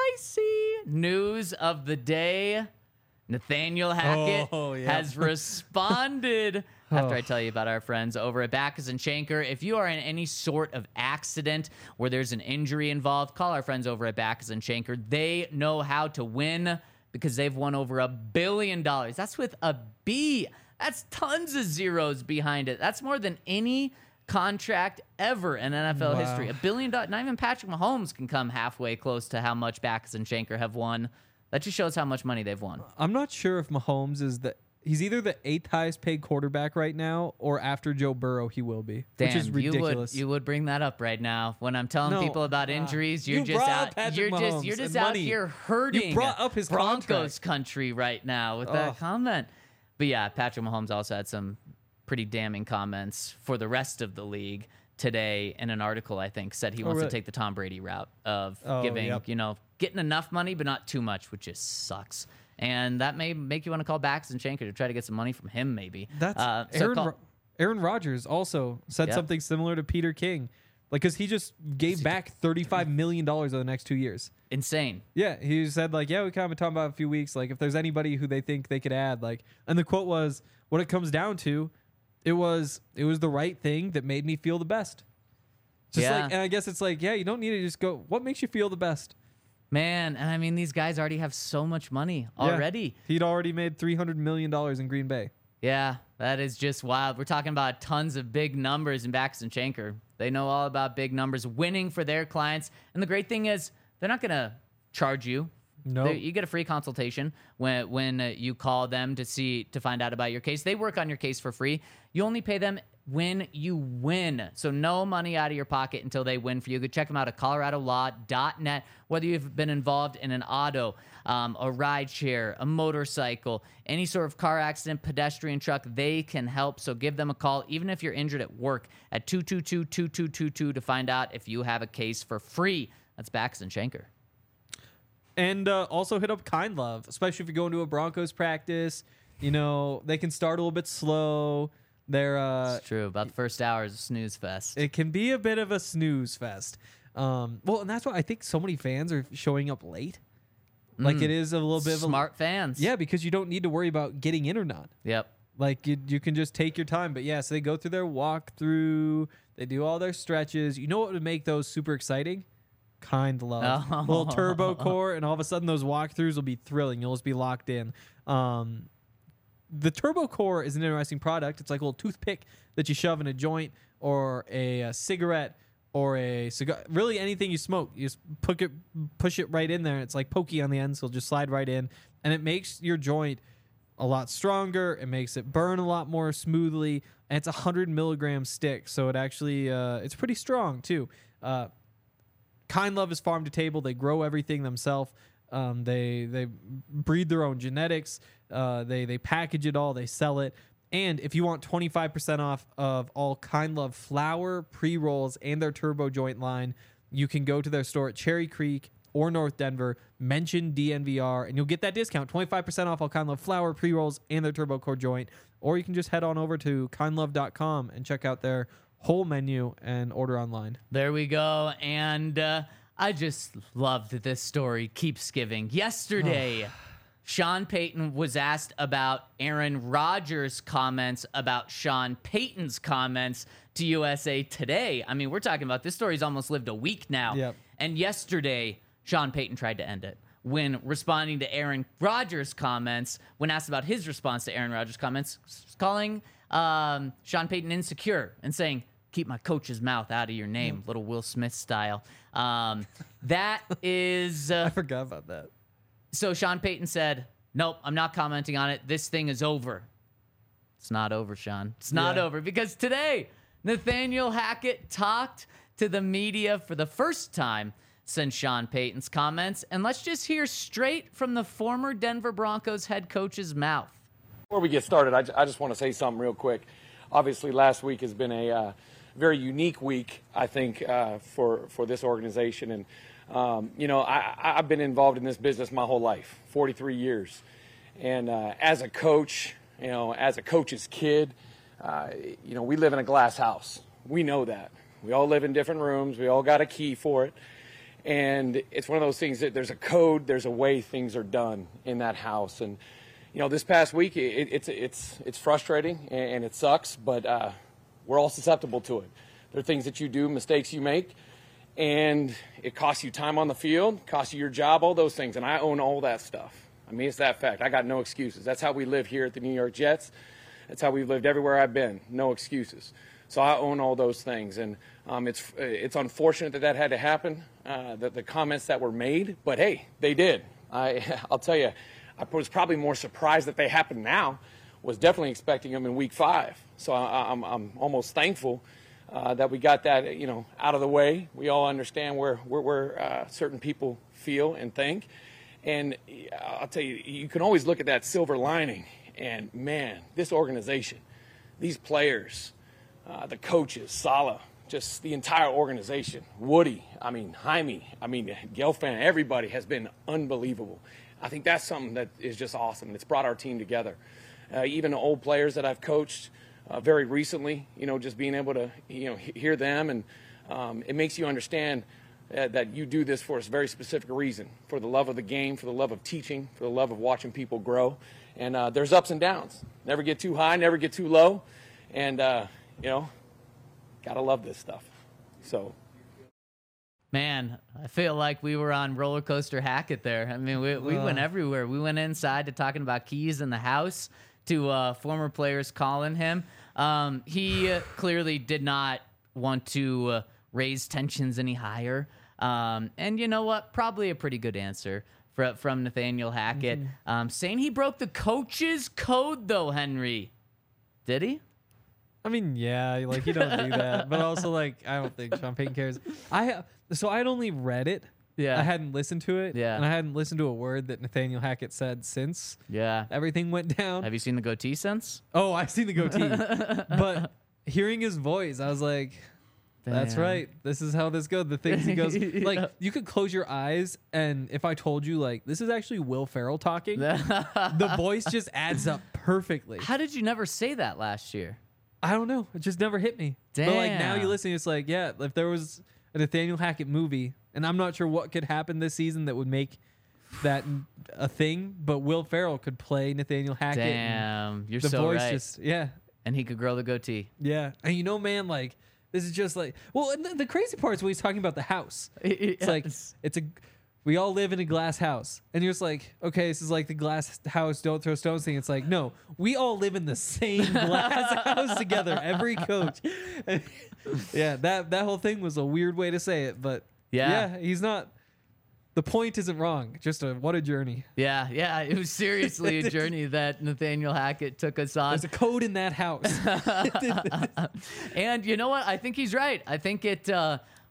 spicy news of the day. Nathaniel Hackett Oh, yeah. has responded after I tell you about our friends over at Backus and Shanker. If you are in any sort of accident where there's an injury involved, call our friends over at Backus and Shanker. They know how to win because they've won over a billion dollars. That's with a B. That's tons of zeros behind it. That's more than any contract ever in N F L Wow. history. A billion dollars. Not even Patrick Mahomes can come halfway close to how much Backus and Shanker have won. That just shows how much money they've won. I'm not sure if Mahomes is the he's either the eighth highest paid quarterback right now, or after Joe Burrow he will be, which is Dan, ridiculous. You would, you would bring that up right now when I'm telling No, people about uh, injuries. You're you just brought out. up Patrick You're just Mahomes you're just and out money. here hurting. You brought up his Broncos contract. country right now with that Ugh. comment. But yeah, Patrick Mahomes also had some pretty damning comments for the rest of the league today in an article. I think said he wants really? to take the Tom Brady route of Oh, giving yep. you know getting enough money but not too much, which just sucks. And that may make you want to call Backus and Shanker to try to get some money from him, maybe. That's uh, so Aaron. call- Ro- Aaron Rodgers also said Yep. something similar to Peter King, like because he just gave back thirty-five million dollars over the next two years. insane. Yeah, he said like, yeah, we kind of been talking about it a few weeks. Like, if there's anybody who they think they could add, like, and the quote was, "What it comes down to, it was it was the right thing that made me feel the best." Just Yeah. like, and I guess it's like, yeah, you don't need to just go. What makes you feel the best? Man, and I mean, these guys already have so much money Yeah. already. He'd already made three hundred million dollars in Green Bay. Yeah, that is just wild. We're talking about tons of big numbers in Backus and Shanker. They know all about big numbers, winning for their clients. And the great thing is, they're not going to charge you. No. They- You get a free consultation when when uh, you call them to see to find out about your case. They work on your case for free. You only pay them when you win. So no money out of your pocket until they win for you. Go check them out at colorado law dot net. Whether you've been involved in an auto, um, a ride share, a motorcycle, any sort of car accident, pedestrian truck, they can help. So give them a call, even if you're injured at work, at two two two, two two two two to find out if you have a case for free. That's Backus and Shanker. And uh, also hit up Kind Love, especially if you're going to a Broncos practice. You know, they can start a little bit slow. They're uh, It's true. About the first hour is a snooze fest. it can be a bit of a snooze fest. Um, well, and that's why I think so many fans are showing up late. Like it is a little bit of a Smart fans. yeah, because you don't need to worry about getting in or not. Yep. Like you, you can just take your time. But yeah, so they go through their walkthrough. They do all their stretches. You know what would make those super exciting? Kind Love. Oh. Little turbo core, and all of a sudden those walkthroughs will be thrilling. You'll just be locked in. Um, the turbo core is an interesting product. It's like a little toothpick that you shove in a joint or a, a cigarette or a cigar. Really anything you smoke, you just put it, push it right in there. It's like pokey on the end, so it'll just slide right in, and it makes your joint a lot stronger. It makes it burn a lot more smoothly, and it's a hundred milligram stick, so it actually uh, it's pretty strong too. Uh, Kind Love is farm to table. They grow everything themselves. Um, they they breed their own genetics. Uh, they they package it all. They sell it. And if you want twenty-five percent off of all Kind Love flour, pre-rolls, and their turbo joint line, you can go to their store at Cherry Creek or North Denver, mention D N V R, and you'll get that discount, twenty-five percent off all Kind Love flour, pre-rolls, and their turbo core joint. Or you can just head on over to kind love dot com and check out their whole menu and order online. There we go. And uh, I just love that this story keeps giving. Yesterday, Sean Payton was asked about Aaron Rodgers' comments about Sean Payton's comments to U S A Today. I mean, we're talking about this story's almost lived a week now. Yep. And yesterday, Sean Payton tried to end it when responding to Aaron Rodgers' comments, when asked about his response to Aaron Rodgers' comments, calling um, Sean Payton insecure and saying, "Keep my coach's mouth out of your name," little Will Smith style. Um, that is... Uh, I forgot about that. So Sean Payton said, "Nope, I'm not commenting on it. This thing is over." It's not over, Sean. It's not Yeah. over, because today, Nathaniel Hackett talked to the media for the first time since Sean Payton's comments. And let's just hear straight from the former Denver Broncos head coach's mouth. Before we get started, I, j- I just want to say something real quick. Obviously, last week has been a uh, very unique week, I think, uh, for, for this organization. And, um, you know, I, I've been involved in this business my whole life, forty-three years. And uh, as a coach, you know, as a coach's kid, uh, you know, we live in a glass house. We know that. We all live in different rooms. We all got a key for it. And it's one of those things that there's a code, there's a way things are done in that house. And, you know, this past week, it, it's it's it's frustrating and, and it sucks, but uh, we're all susceptible to it. There are things that you do, mistakes you make, and it costs you time on the field, costs you your job, all those things. And I own all that stuff. I mean, it's that fact. I got no excuses. That's how we live here at the New York Jets. That's how we've lived everywhere I've been. No excuses. So I own all those things, and um, it's it's unfortunate that that had to happen, uh, the, the comments that were made. But hey, they did. I I'll tell you, I was probably more surprised that they happened now. Was definitely expecting them in week five. So I, I'm I'm almost thankful uh, that we got that you know out of the way. We all understand where where, where uh, certain people feel and think, and I'll tell you, you can always look at that silver lining. And man, this organization, these players. Uh, the coaches, Saleh, just the entire organization, Woody, I mean, Jaime, I mean, Gelfand, everybody has been unbelievable. I think that's something that is just awesome. It's brought our team together. Uh, even the old players that I've coached uh, very recently, you know, just being able to, you know, he- hear them, and um, it makes you understand uh, that you do this for a very specific reason, for the love of the game, for the love of teaching, for the love of watching people grow. And uh, there's ups and downs. Never get too high, never get too low. And, uh, you know, gotta love this stuff. So, Man, I feel like we were on Roller Coaster Hackett there. I mean, we, we went everywhere. We went inside to talking about keys in the house, to uh, former players calling him. Um, he uh, clearly did not want to uh, raise tensions any higher. Um, and you know what? Probably a pretty good answer for, from Nathaniel Hackett. Mm-hmm. Um, saying he broke the coach's code, though, Henry. Did he? I mean, yeah, like you don't do that, but also like I don't think Sean Payton cares. I so I'd only read it. Yeah. I hadn't listened to it. Yeah. And I hadn't listened to a word that Nathaniel Hackett said since Yeah. everything went down. Have you seen the goatee since? Oh, I've seen the goatee. But hearing his voice, I was like, that's Damn. right. This is how this goes. The things he goes Yeah. like you could close your eyes, and if I told you like this is actually Will Ferrell talking, the voice just adds up perfectly. How did you never say that last year? I don't know. It just never hit me. But like now you Damn. listen, it's like, yeah, if there was a Nathaniel Hackett movie, and I'm not sure what could happen this season that would make that a thing, but Will Ferrell could play Nathaniel Hackett. and Damn, you're the so voice right. just yeah. And he could grow the goatee. Yeah. And you know, man, like this is just like well, and the, the crazy part is when he's talking about the house. It's like it's a we all live in a glass house. And you're just like, okay, this is like the glass house, don't throw stones thing. It's like, no, we all live in the same glass house together, every coach. Yeah, that, that whole thing was a weird way to say it, but Yeah. yeah, he's not, the point isn't wrong. Just a, what a journey. Yeah, yeah, it was seriously a journey that Nathaniel Hackett took us on. There's a code in that house. And you know what? I think he's right. I think it uh,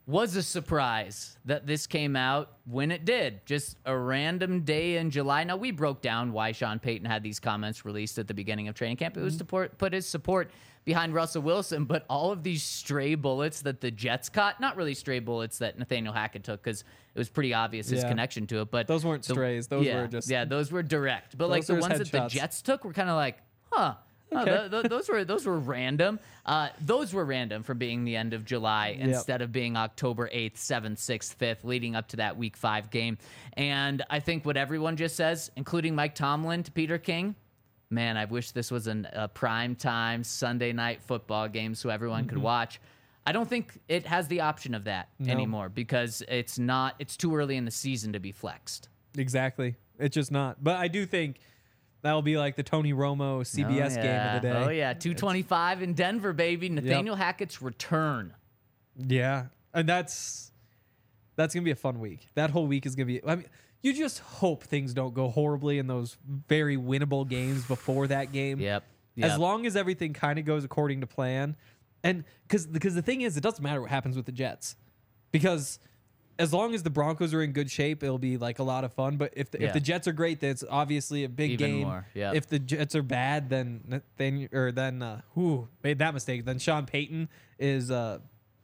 was a surprise that this came out when it did. Just a random day in July. Now, we broke down why Sean Payton had these comments released at the beginning of training camp. It was to put, put his support behind Russell Wilson, but all of these stray bullets that the Jets caught, not really stray bullets that Nathaniel Hackett took, because it was pretty obvious his Yeah. connection to it. But Those weren't the- strays. Those yeah, were just yeah, those were direct. But like Those the were ones his that the headshots. Jets took were kind of like, huh. Oh, Okay. th- th- those were those were random. Uh, those were random for being the end of July instead of being October eighth, seventh, sixth, fifth, leading up to that Week Five game. And I think what everyone just says, including Mike Tomlin to Peter King, man, I wish this was an, a prime time Sunday night football game so everyone Mm-hmm. could watch. I don't think it has the option of that No. anymore because it's not. It's too early in the season to be flexed. exactly. It's just not. But I do think that'll be like the Tony Romo C B S Oh, game yeah. of the day. Oh yeah, two twenty-five in Denver, baby. Nathaniel Hackett's return. Yeah, and that's that's gonna be a fun week. That whole week is gonna be. I mean, you just hope things don't go horribly in those very winnable games before that game. Yep. As Yep. long as everything kind of goes according to plan, and because because the thing is, it doesn't matter what happens with the Jets, because as long as the Broncos are in good shape, it'll be like a lot of fun. But if the, Yeah. if the Jets are great, then it's obviously a big Even game. more, yep. If the Jets are bad, then then or then uh, who made that mistake? Then Sean Payton is uh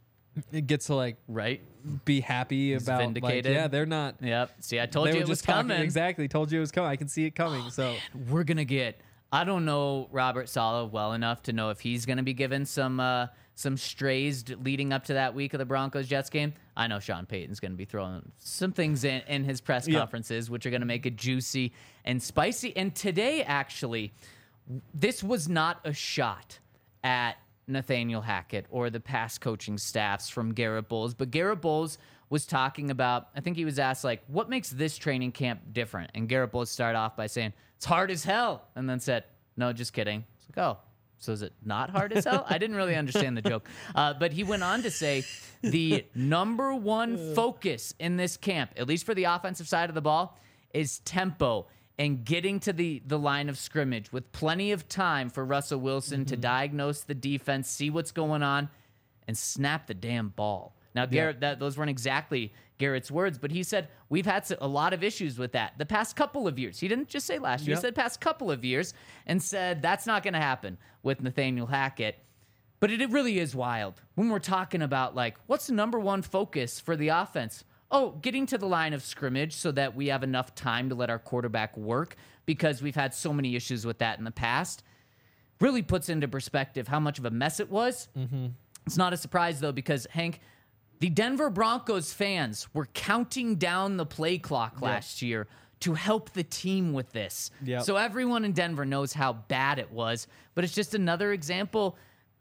it gets to like Right. be happy about like, vindicated. yeah, they're not. Yep. See, I told They you were it was just talking- coming. Exactly, told you it was coming. I can see it coming. so We're gonna get. I don't know Robert Saleh well enough to know if he's gonna be given some uh, some strays d- leading up to that week of the Broncos Jets game. I know Sean Payton's gonna be throwing some things in in his press Yeah. conferences, which are gonna make it juicy and spicy. And today, actually, this was not a shot at Nathaniel Hackett or the past coaching staffs from Garrett Bowles, but Garrett Bowles was talking about, I think he was asked, like, what makes this training camp different? And Garrett Bowles started off by saying, it's hard as hell, and then said, no, just kidding. It's like, oh, so is it not hard as hell? I didn't really understand the joke. Uh, but he went on to say the number one focus in this camp, at least for the offensive side of the ball, is tempo and getting to the, the line of scrimmage with plenty of time for Russell Wilson to diagnose the defense, see what's going on, and snap the damn ball. Now, Garrett, that, those weren't exactly Garrett's words, but he said, we've had a lot of issues with that the past couple of years. He didn't just say last year, Yep. he said past couple of years, and said that's not going to happen with Nathaniel Hackett. But it, it really is wild when we're talking about, like, what's the number one focus for the offense? Oh, getting to the line of scrimmage so that we have enough time to let our quarterback work, because we've had so many issues with that in the past. Really puts into perspective how much of a mess it was. Mm-hmm. It's not a surprise, though, because, Hank, the Denver Broncos fans were counting down the play clock last year to help the team with this. Yep. So everyone in Denver knows how bad it was, but it's just another example,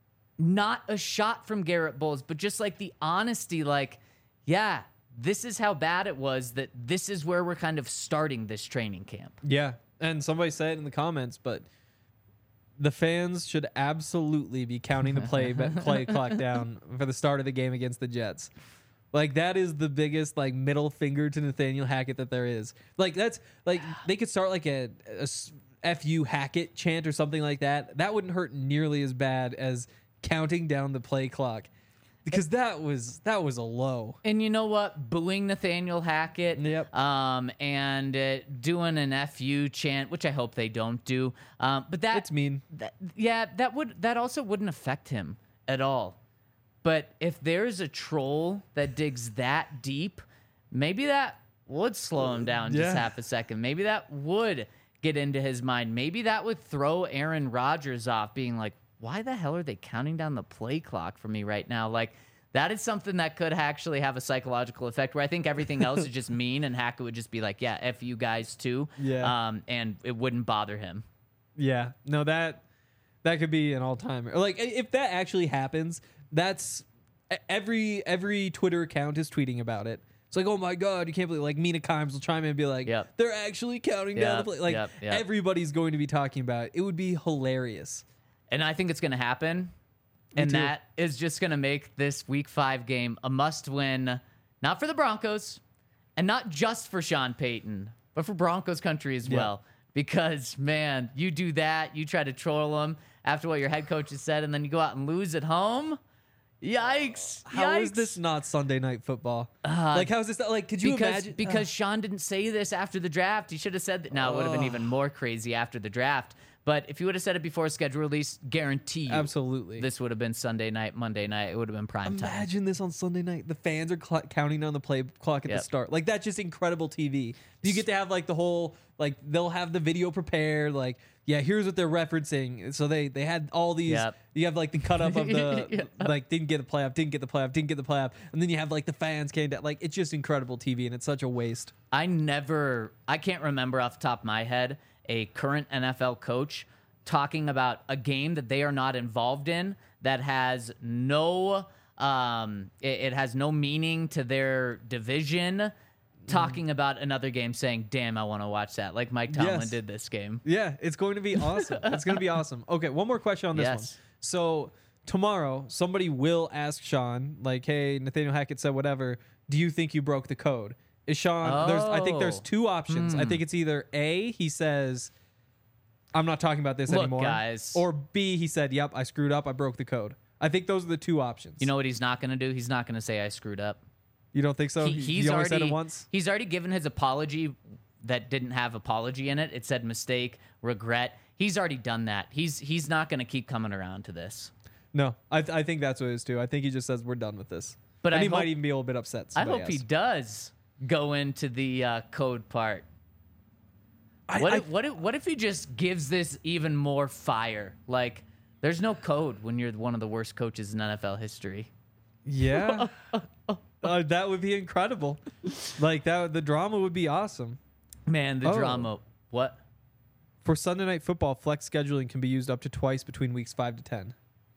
not a shot from Garrett Bowles, but just like the honesty, like, yeah, this is how bad it was, that this is where we're kind of starting this training camp. yeah, and somebody said it in the comments, but the fans should absolutely be counting the play play clock down for the start of the game against the Jets. Like, that is the biggest, like, middle finger to Nathaniel Hackett that there is. Like, that's like they could start like a, a s- F U Hackett chant or something like that. That wouldn't hurt nearly as bad as counting down the play clock, because that was that was a low. And you know what? Booing Nathaniel Hackett, Yep. um, and uh, doing an F U chant, which I hope they don't do. Um, but that It's mean. That, yeah, that would that also wouldn't affect him at all. But if there's a troll that digs that deep, maybe that would slow him down just Yeah. half a second. Maybe that would get into his mind. Maybe that would throw Aaron Rodgers off, being like, why the hell are they counting down the play clock for me right now? Like, that is something that could actually have a psychological effect, where I think everything else is just mean, and Hackett would just be like, yeah, F you guys too. Yeah. Um, and it wouldn't bother him. Yeah, no, that that could be an all timer. Like, i- if that actually happens, that's e- every every Twitter account is tweeting about it. It's like, oh my god, you can't believe. Like, Mina Kimes will chime in and be like, Yep. they're actually counting down the Yep, play. Like, yep, yep. everybody's going to be talking about it. It would be hilarious. And I think it's going to happen. And too. that is just going to make this week five game a must win, not for the Broncos and not just for Sean Payton, but for Broncos country as Yeah. well. Because, man, you do that, you try to troll them after what your head coach has said, and then you go out and lose at home. Yikes! How is Yikes. this not Sunday Night Football? like, how is this? Like, could you because imagine? because Sean didn't say this after the draft. He should have said that. Now it would have been even more crazy after the draft. But if you would have said it before schedule release, guarantee you, Absolutely. this would have been Sunday night, Monday night. It would have been prime time. Imagine this on Sunday night. The fans are cl- counting down the play clock at Yep. the start. Like, that's just incredible T V. You get to have like the whole, like, they'll have the video prepared. Like, yeah, here's what they're referencing. So they they had all these. Yep. You have like the cut up of the Yeah. like didn't get the playoff, didn't get the playoff, didn't get the playoff, and then you have like the fans came down. Like, it's just incredible T V, and it's such a waste. I never, I can't remember off the top of my head a current N F L coach talking about a game that they are not involved in that has no, um, it, it has no meaning to their division. Talking about another game, saying, "Damn, I want to watch that." Like Mike Tomlin Yes. did this game. Yeah, it's going to be awesome. It's going to be awesome. Okay, one more question on this Yes. one. So tomorrow, somebody will ask Sean, like, "Hey, Nathaniel Hackett said whatever. Do you think you broke the code?" Is Sean? There's, I think there's Oh. two options. I think it's either A, he says, "I'm not talking about this Look, anymore," guys. or B, he said, "Yep, I screwed up. I broke the code." I think those are the two options. You know what he's not going to do? He's not going to say I screwed up. you don't think so? He, He- he's he only already said it once. He's already given his apology that didn't have apology in it. It said mistake, regret. He's already done that. He's he's not going to keep coming around to this. No, I, I think that's what it is too. I think he just says we're done with this. But and I he might hope- even be a little bit upset. I somebody hope he asked. does go into the uh, code part. I- What I- if, what if what if he just gives this even more fire? Like, there's no code when you're one of the worst coaches in N F L history. Yeah. uh, that would be incredible. Like that the drama would be awesome. Man, the Oh. drama. What? For Sunday Night Football, flex scheduling can be used up to twice between weeks five to ten.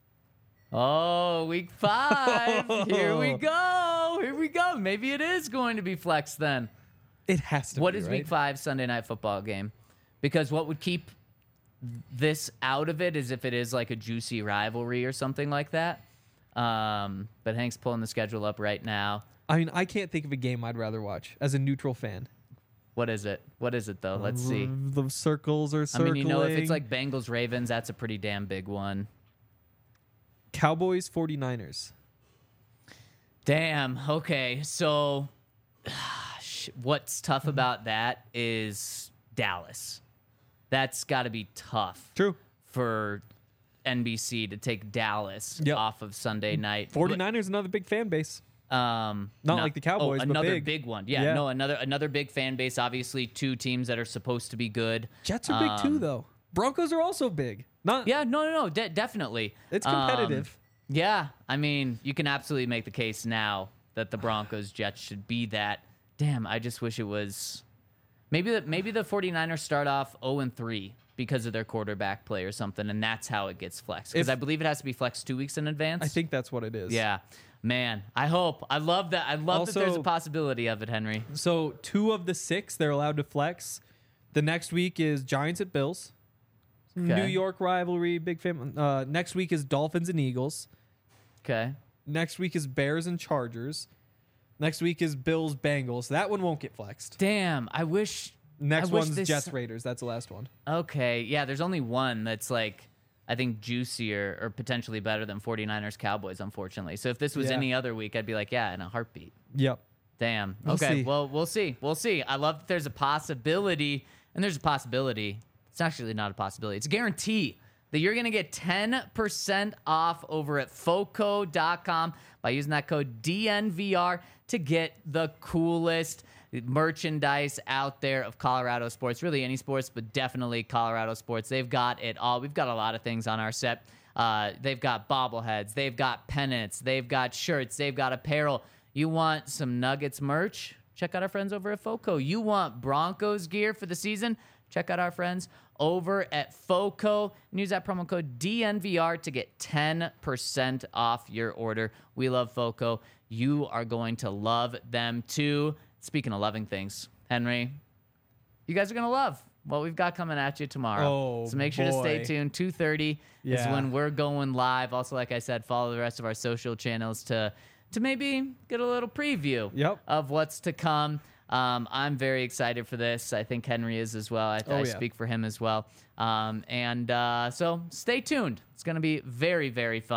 Oh, week five. Here we go. Here we go. Maybe it is going to be flex then. It has to What be, is right? week five Sunday night football game? Because what would keep this out of it is if it is like a juicy rivalry or something like that. Um, but Hank's pulling the schedule up right now. I mean, I can't think of a game I'd rather watch as a neutral fan. What is it? What is it though? Let's see. The circles are I circling. mean, you know, if it's like Bengals Ravens, that's a pretty damn big one. Cowboys forty-niners. Damn. Okay. So what's tough Mm-hmm. about that is Dallas. That's got to be tough True. for N B C to take Dallas Yep. off of Sunday night. forty-niners, another big fan base. Um, Not no- like the Cowboys, oh, but another big. one. Yeah, Yeah. no, another another big fan base. Obviously, two teams that are supposed to be good. Jets are big too, Um, though. Broncos are also big. Not. Yeah, no, no, no, de- definitely. It's Um, competitive. yeah, I mean, you can absolutely make the case now that the Broncos Jets should be that. Damn, I just wish it was. Maybe the maybe the 49ers start off oh and three because of their quarterback play or something, and that's how it gets flexed. Because If- I believe it has to be flexed two weeks in advance. I think that's what it is. Yeah, man. I hope. I love that. I love that there's a Also- possibility of it, Henry. So two of the six they're allowed to flex. The next week is Giants at Bills. New Okay. York rivalry, big fan. Uh, next week is Dolphins and Eagles. Okay. Next week is Bears and Chargers. Next week is Bills Bengals. That one won't get flexed. Damn. I wish. Next I wish one's this- Jets Raiders. That's the last one. Okay. Yeah. There's only one that's like, I think juicier or potentially better than 49ers Cowboys, unfortunately. So if this was Yeah. any other week, I'd be like, yeah, in a heartbeat. Yep. Damn. We'll okay. see. Well, we'll see. We'll see. I love that there's a possibility, and there's a possibility. It's actually not a possibility. It's a guarantee that you're going to get ten percent off over at foco dot com by using that code D N V R to get the coolest merchandise out there of Colorado sports, really any sports, but definitely Colorado sports. They've got it all. We've got a lot of things on our set. Uh, they've got bobbleheads, they've got pennants, they've got shirts, they've got apparel. You want some Nuggets merch? Check out our friends over at Foco. You want Broncos gear for the season? Check out our friends over at Foco and use that promo code D N V R to get ten percent off your order. We love Foco. You are going to love them too. Speaking of loving things, Henry, you guys are going to love what we've got coming at you tomorrow. Oh, so make sure to stay boy. tuned. two thirty is Yeah. when we're going live. Also, like I said, follow the rest of our social channels to to maybe get a little preview Yep. of what's to come. Um, I'm very excited for this. I think Henry is as well. I, Oh, I yeah. speak for him as well. Um, and uh, so stay tuned. It's going to be very, very fun.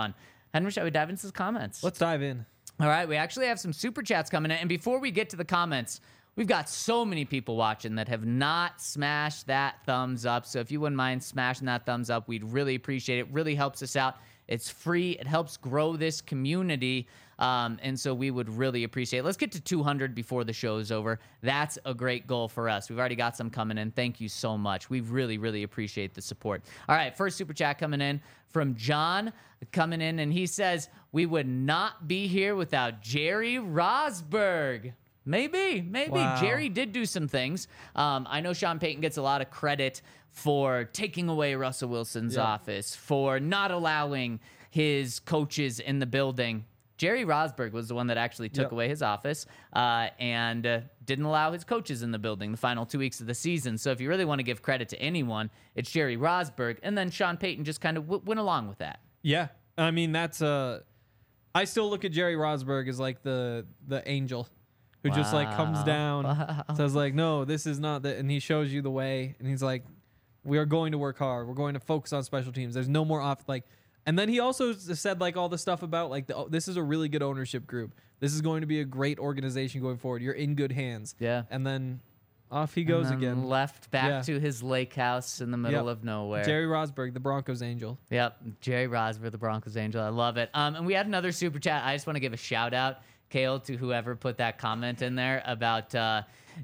Henry, shall we dive into the comments? Let's dive in. All right, we actually have some super chats coming in. And before we get to the comments, we've got so many people watching that have not smashed that thumbs up. So if you wouldn't mind smashing that thumbs up, we'd really appreciate it. It really helps us out. It's free. It helps grow this community. Um, and so we would really appreciate it. Let's get to two hundred before the show is over. That's a great goal for us. We've already got some coming in. Thank you so much. We really, really appreciate the support. All right, first super chat coming in from John coming in, and he says, we would not be here without Jerry Rosberg. Maybe, maybe. Wow. Jerry did do some things. Um, I know Sean Payton gets a lot of credit for taking away Russell Wilson's Yeah. office, for not allowing his coaches in the building. Jerry Rosberg was the one that actually took Yep. away his office uh, and uh, didn't allow his coaches in the building the final two weeks of the season. So if you really want to give credit to anyone, it's Jerry Rosberg. And then Sean Payton just kind of w- went along with that. Yeah, I mean that's uh, I still look at Jerry Rosberg as like the the angel who just like comes Wow. down, Wow. says like, no, this is not the, and he shows you the way, and he's like, we are going to work hard. We're going to focus on special teams. There's no more off like. And then he also s- said like all the stuff about like the, oh, this is a really good ownership group. This is going to be a great organization going forward. You're in good hands. Yeah. And then off he goes And then again. left back Yeah. to his lake house in the middle Yep. of nowhere. Jerry Rosberg, the Broncos angel. Yep, Jerry Rosberg, the Broncos Angel. I love it. Um, and we had another super chat. I just want to give a shout out, Kale, to whoever put that comment in there about uh,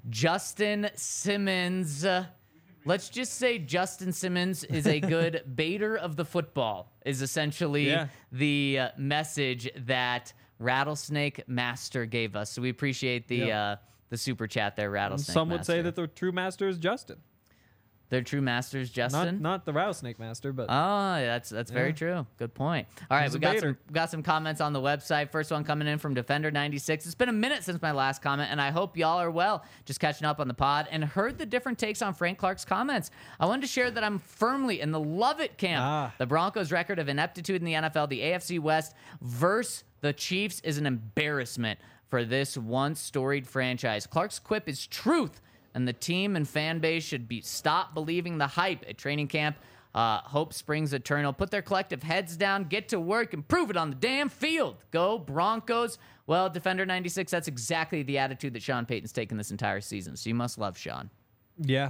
Justin Simmons. Uh, let's just say Justin Simmons is a good baiter of the football, is essentially Yeah. the uh, message that Rattlesnake Master gave us. So we appreciate the Yep. uh, the super chat there, Rattlesnake Some would Master. say that the true master is Justin. They're true masters, Justin. Not not the rattlesnake master, but Oh, that's that's very Yeah. true. Good point. All right, He's we a got baiter. some we got some comments on the website. First one coming in from Defender ninety-six. It's been a minute since my last comment, and I hope y'all are well. Just catching up on the pod and heard the different takes on Frank Clark's comments. I wanted to share that I'm firmly in the love it camp. Ah. The Broncos' record of ineptitude in the N F L, the A F C West versus the Chiefs, is an embarrassment for this once storied franchise. Clark's quip is truth, and the team and fan base should be stop believing the hype at training camp. Uh, hope springs eternal. Put their collective heads down, get to work, and prove it on the damn field. Go Broncos. Well, Defender ninety-six, that's exactly the attitude that Sean Payton's taken this entire season. So you must love Sean. yeah,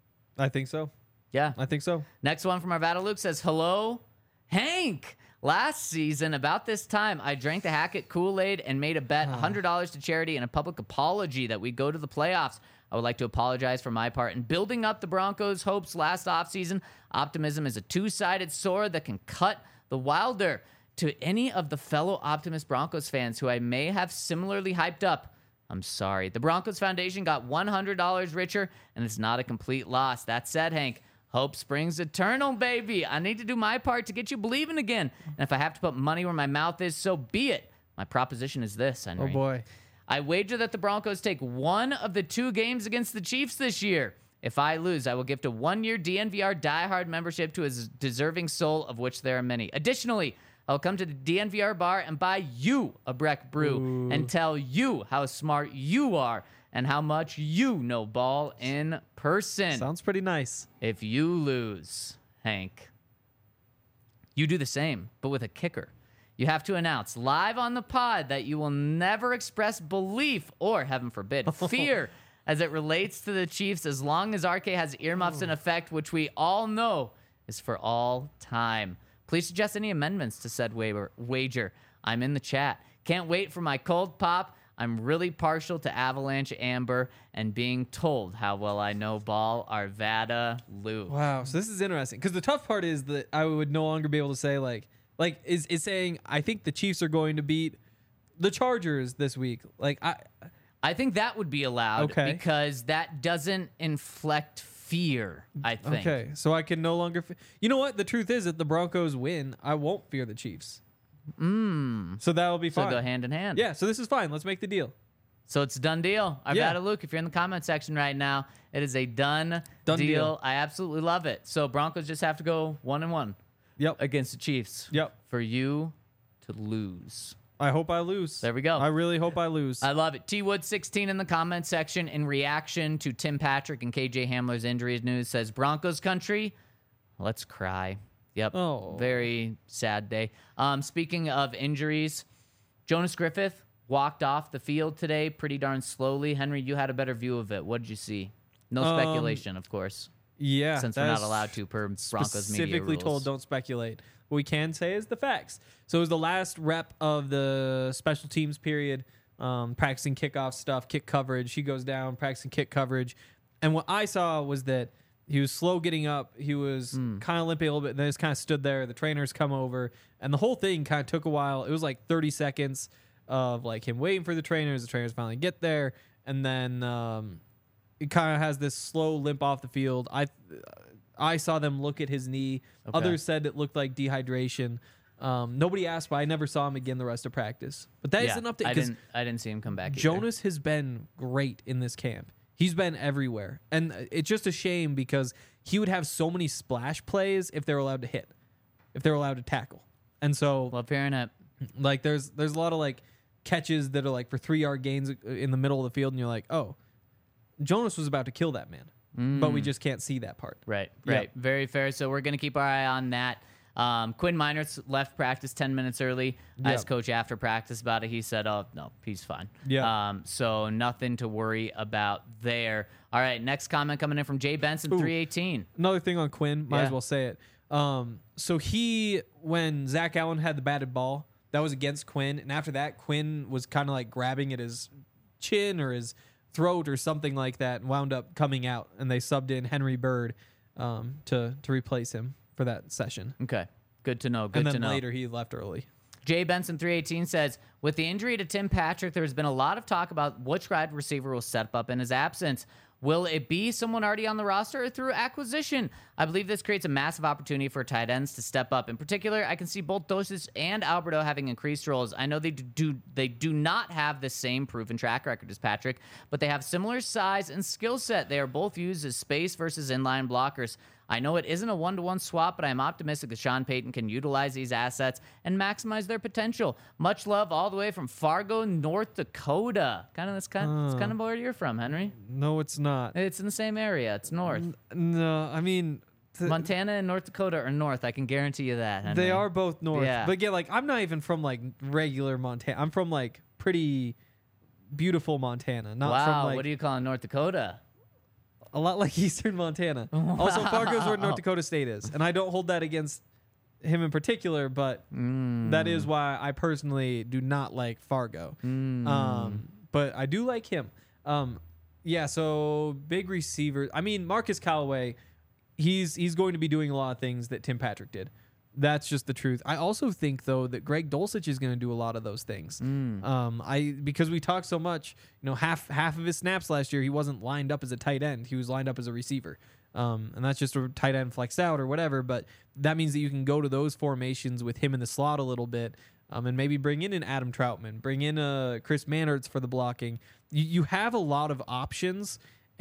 I think so. Yeah. I think so. Next one from Arvada Luke says, hello, Hank. Last season, about this time, I drank the Hackett Kool-Aid and made a bet one hundred dollars to charity and a public apology that we'd go to the playoffs. I would like to apologize for my part in building up the Broncos' hopes last offseason. Optimism is a two-sided sword that can cut the wilder. To any of the fellow Optimist Broncos fans who I may have similarly hyped up, I'm sorry. The Broncos Foundation got one hundred dollars richer, and it's not a complete loss. That said, Hank, hope springs eternal, baby. I need to do my part to get you believing again. And if I have to put money where my mouth is, so be it. My proposition is this, Henry. Oh boy. I wager that the Broncos take one of the two games against the Chiefs this year. If I lose, I will gift a one-year D N V R diehard membership to a deserving soul, of which there are many. Additionally, I'll come to the D N V R bar and buy you a Breck Brew and tell you how smart you are and how much you know ball in person. Sounds pretty nice. If you lose, Hank, you do the same, but with a kicker. You have to announce live on the pod that you will never express belief or, heaven forbid, fear as it relates to the Chiefs as long as R K has earmuffs in effect, which we all know is for all time. Please suggest any amendments to said wa- wager. I'm in the chat. Can't wait for my cold pop. I'm really partial to Avalanche Amber and being told how well I know ball. Arvada Luke. Wow. So this is interesting because the tough part is that I would no longer be able to say like like is is saying I think the Chiefs are going to beat the Chargers this week. Like I I think that would be allowed Okay. because that doesn't inflect fear, I think. okay, so I can no longer. Fe- you know what? The truth is that the Broncos win. I won't fear the Chiefs. Mm. So that'll be So fine. go hand in hand. Yeah. So this is fine. Let's make the deal. So it's a done deal. Arvada Yeah. Luke, if you're in the comment section right now, it is a done, Done deal. deal. I absolutely love it. So Broncos just have to go one and one Yep. against the Chiefs. Yep. For you to lose. I hope I lose. There we go. I really hope I lose. I love it. T Wood sixteen in the comment section in reaction to Tim Patrick and K J Hamler's injuries news says Broncos country, let's cry. Yep. Oh. Very sad day. Um, speaking of injuries, Jonas Griffith walked off the field today pretty darn slowly. Henry, you had a better view of it. What did you see? No Um, speculation, of course, Yeah, since we're not that's allowed to per Broncos media specifically rules. told don't speculate. What we can say is the facts. So it was the last rep of the special teams period, um, practicing kickoff stuff, kick coverage. He goes down, practicing kick coverage. And what I saw was that he was slow getting up. He was Hmm. kind of limping a little bit. Then just kind of stood there. The trainers come over. And the whole thing kind of took a while. It was like thirty seconds of like him waiting for the trainers. The trainers finally get there. And then um, it kind of has this slow limp off the field. I I saw them look at his knee. Okay. Others said it looked like dehydration. Um, nobody asked, but I never saw him again the rest of practice. But that is yeah, an update I because didn't, I didn't see him come back either. Jonas has been great in this camp. He's been everywhere. And it's just a shame because he would have so many splash plays if they were allowed to hit, if they were allowed to tackle. And so, Love hearing it. like, there's there's a lot of, like, catches that are, like, for three-yard gains in the middle of the field, and you're like, oh, Jonas was about to kill that man. But we just can't see that part. Right, Yep. right. Very fair. So we're going to keep our eye on that. Um, Quinn Miners left practice ten minutes early. I Yep. asked Coach after practice about it. He said, oh, no, he's fine. Yeah. Um, so nothing to worry about there. All right, next comment coming in from Jay Benson, three eighteen. Another thing on Quinn, might Yeah. as well say it. Um, so he, when Zach Allen had the batted ball, that was against Quinn. And after that, Quinn was kind of like grabbing at his chin or his throat or something like that and wound up coming out. And they subbed in Henry Bird um, to, to replace him for that session. Okay, good to know. Good and then to know. later he left early. Jay Benson three eighteen says, with the injury to Tim Patrick, there's been a lot of talk about which wide receiver will step up in his absence. Will it be someone already on the roster or through acquisition? I believe this creates a massive opportunity for tight ends to step up. In particular, I can see both Dosich and Alberto having increased roles. I know they do they do not have the same proven track record as Patrick, but they have similar size and skill set. They are both used as space versus inline blockers. I know it isn't a one-to-one swap, but I'm optimistic that Sean Payton can utilize these assets and maximize their potential. Much love all the way from Fargo, North Dakota. Kind of that's kind of, it's kind of where you're from, Henry. No, it's not. It's in the same area. It's north. No, I mean, th- Montana and North Dakota are north. I can guarantee you that, Henry. they are both north. Yeah. But again, like, I'm not even from like regular Montana. I'm from like pretty beautiful Montana. Not Wow, from like what do you call North Dakota? a lot like Eastern Montana. Also, Fargo's where North Dakota State is, and I don't hold that against him in particular, but that is why I personally do not like Fargo. Um, but I do like him. Um, yeah. So big receiver. I mean, Marcus Callaway, he's he's going to be doing a lot of things that Tim Patrick did. That's just the truth. I also think though that Greg Dulcich is going to do a lot of those things. Um, I because we talked so much, you know, half half of his snaps last year he wasn't lined up as a tight end. He was lined up as a receiver. Um, and that's just a tight end flexed out or whatever. But that means that you can go to those formations with him in the slot a little bit, um, and maybe bring in an Adam Troutman, bring in a Chris Mannertz for the blocking. You you have a lot of options,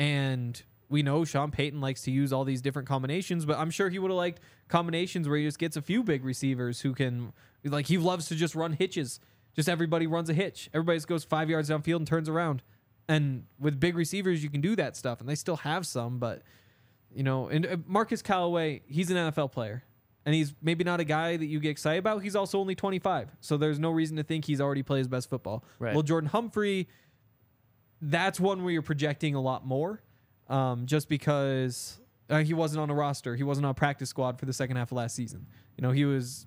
and we know Sean Payton likes to use all these different combinations, but I'm sure he would have liked combinations where he just gets a few big receivers who can, like, he loves to just run hitches. Just everybody runs a hitch. Everybody just goes five yards downfield and turns around. And with big receivers, you can do that stuff, and they still have some, but, you know, and uh, Marcus Callaway, he's an N F L player, and he's maybe not a guy that you get excited about. He's also only twenty-five, so there's no reason to think he's already played his best football. Right. Well, Jordan Humphrey, that's one where you're projecting a lot more. Um, just because uh, he wasn't on a roster. He wasn't on a practice squad for the second half of last season. You know, he was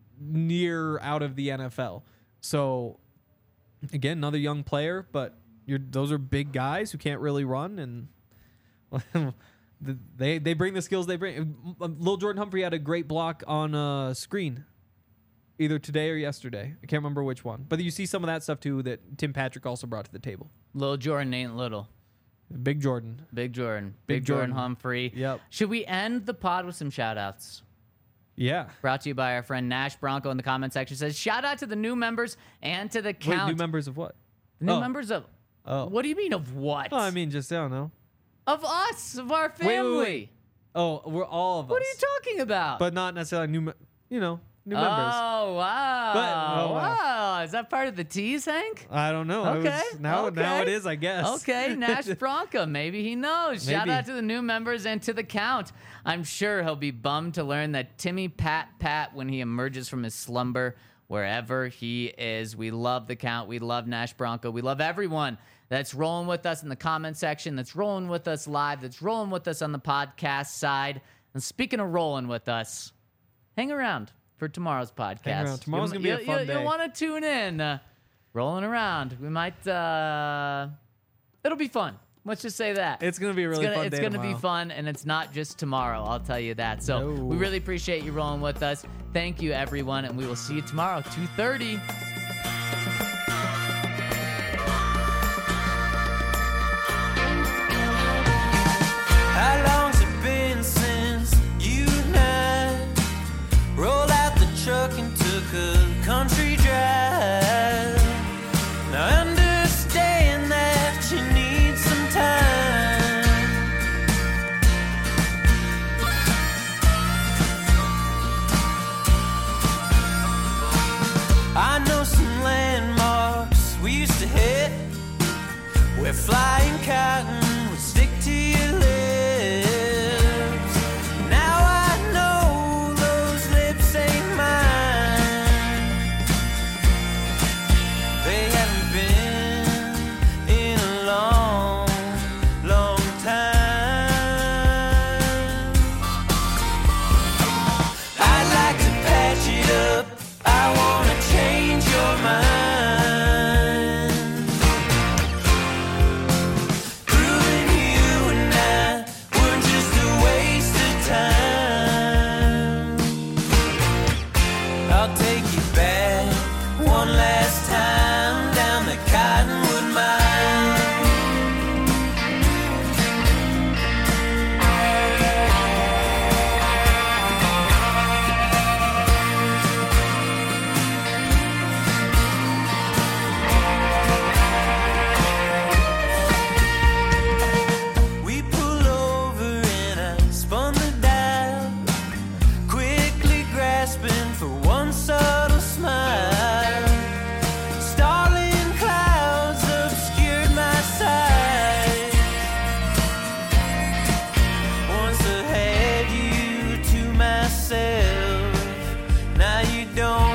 near out of the N F L. So, again, another young player, but you're, those are big guys who can't really run, and they they bring the skills they bring. Lil Jordan Humphrey had a great block on a screen, either today or yesterday. I can't remember which one. But you see some of that stuff, too, that Tim Patrick also brought to the table. Lil Jordan ain't little. Big Jordan. Big Jordan. Big, Big Jordan. Jordan. Humphrey. Yep. Should we end the pod with some shout outs? Yeah. Brought to you by our friend Nash Bronco in the comment section. Says, shout out to the new members and to the count. Wait, new members of what? The new Oh. members of. Oh. What do you mean of what? Oh, I mean, just, I don't know. of us, of our wait, family. wait. Oh, we're all of What us. are you talking about? But not necessarily new, me- you know, new members. Oh, wow. But- oh, wow. wow. Oh, is that part of the tease, Hank? I don't know. It Okay. was- now, okay. now it is, I guess. Okay, Nash Bronca. Maybe he knows. Shout Maybe. out to the new members and to the count. I'm sure he'll be bummed to learn that Timmy Pat Pat when he emerges from his slumber, wherever he is. We love the count. We love Nash Bronca. We love everyone that's rolling with us in the comment section, that's rolling with us live, that's rolling with us on the podcast side. And speaking of rolling with us, hang around for tomorrow's podcast. Hang around. Tomorrow's You'll- gonna be a you- fun you, day. You'll want to tune in. Uh, rolling around. We might, uh, it'll be fun. Let's just say that. It's gonna be a really it's gonna, fun It's day gonna be tomorrow. fun, and it's not just tomorrow. I'll tell you that. So No. we really appreciate you rolling with us. Thank you, everyone, and we will see you tomorrow, two thirty. How long's it been since you and I rolled out the truck and took a country drive? Now I understand that you need some time. I know some landmarks we used to hit where flying cotton would stick to your lips. Now I know those lips ain't mine. They haven't been in a long, long time. I'd like to patch it up. I wanna change your mind. Proving you and I were just a waste of time. I'll take you back one last time down the Cottonwood Mine. We pull over and I spun the dial, quickly grasping for one subtle smile. Starling clouds obscured my sight. Once I had you to myself, now you don't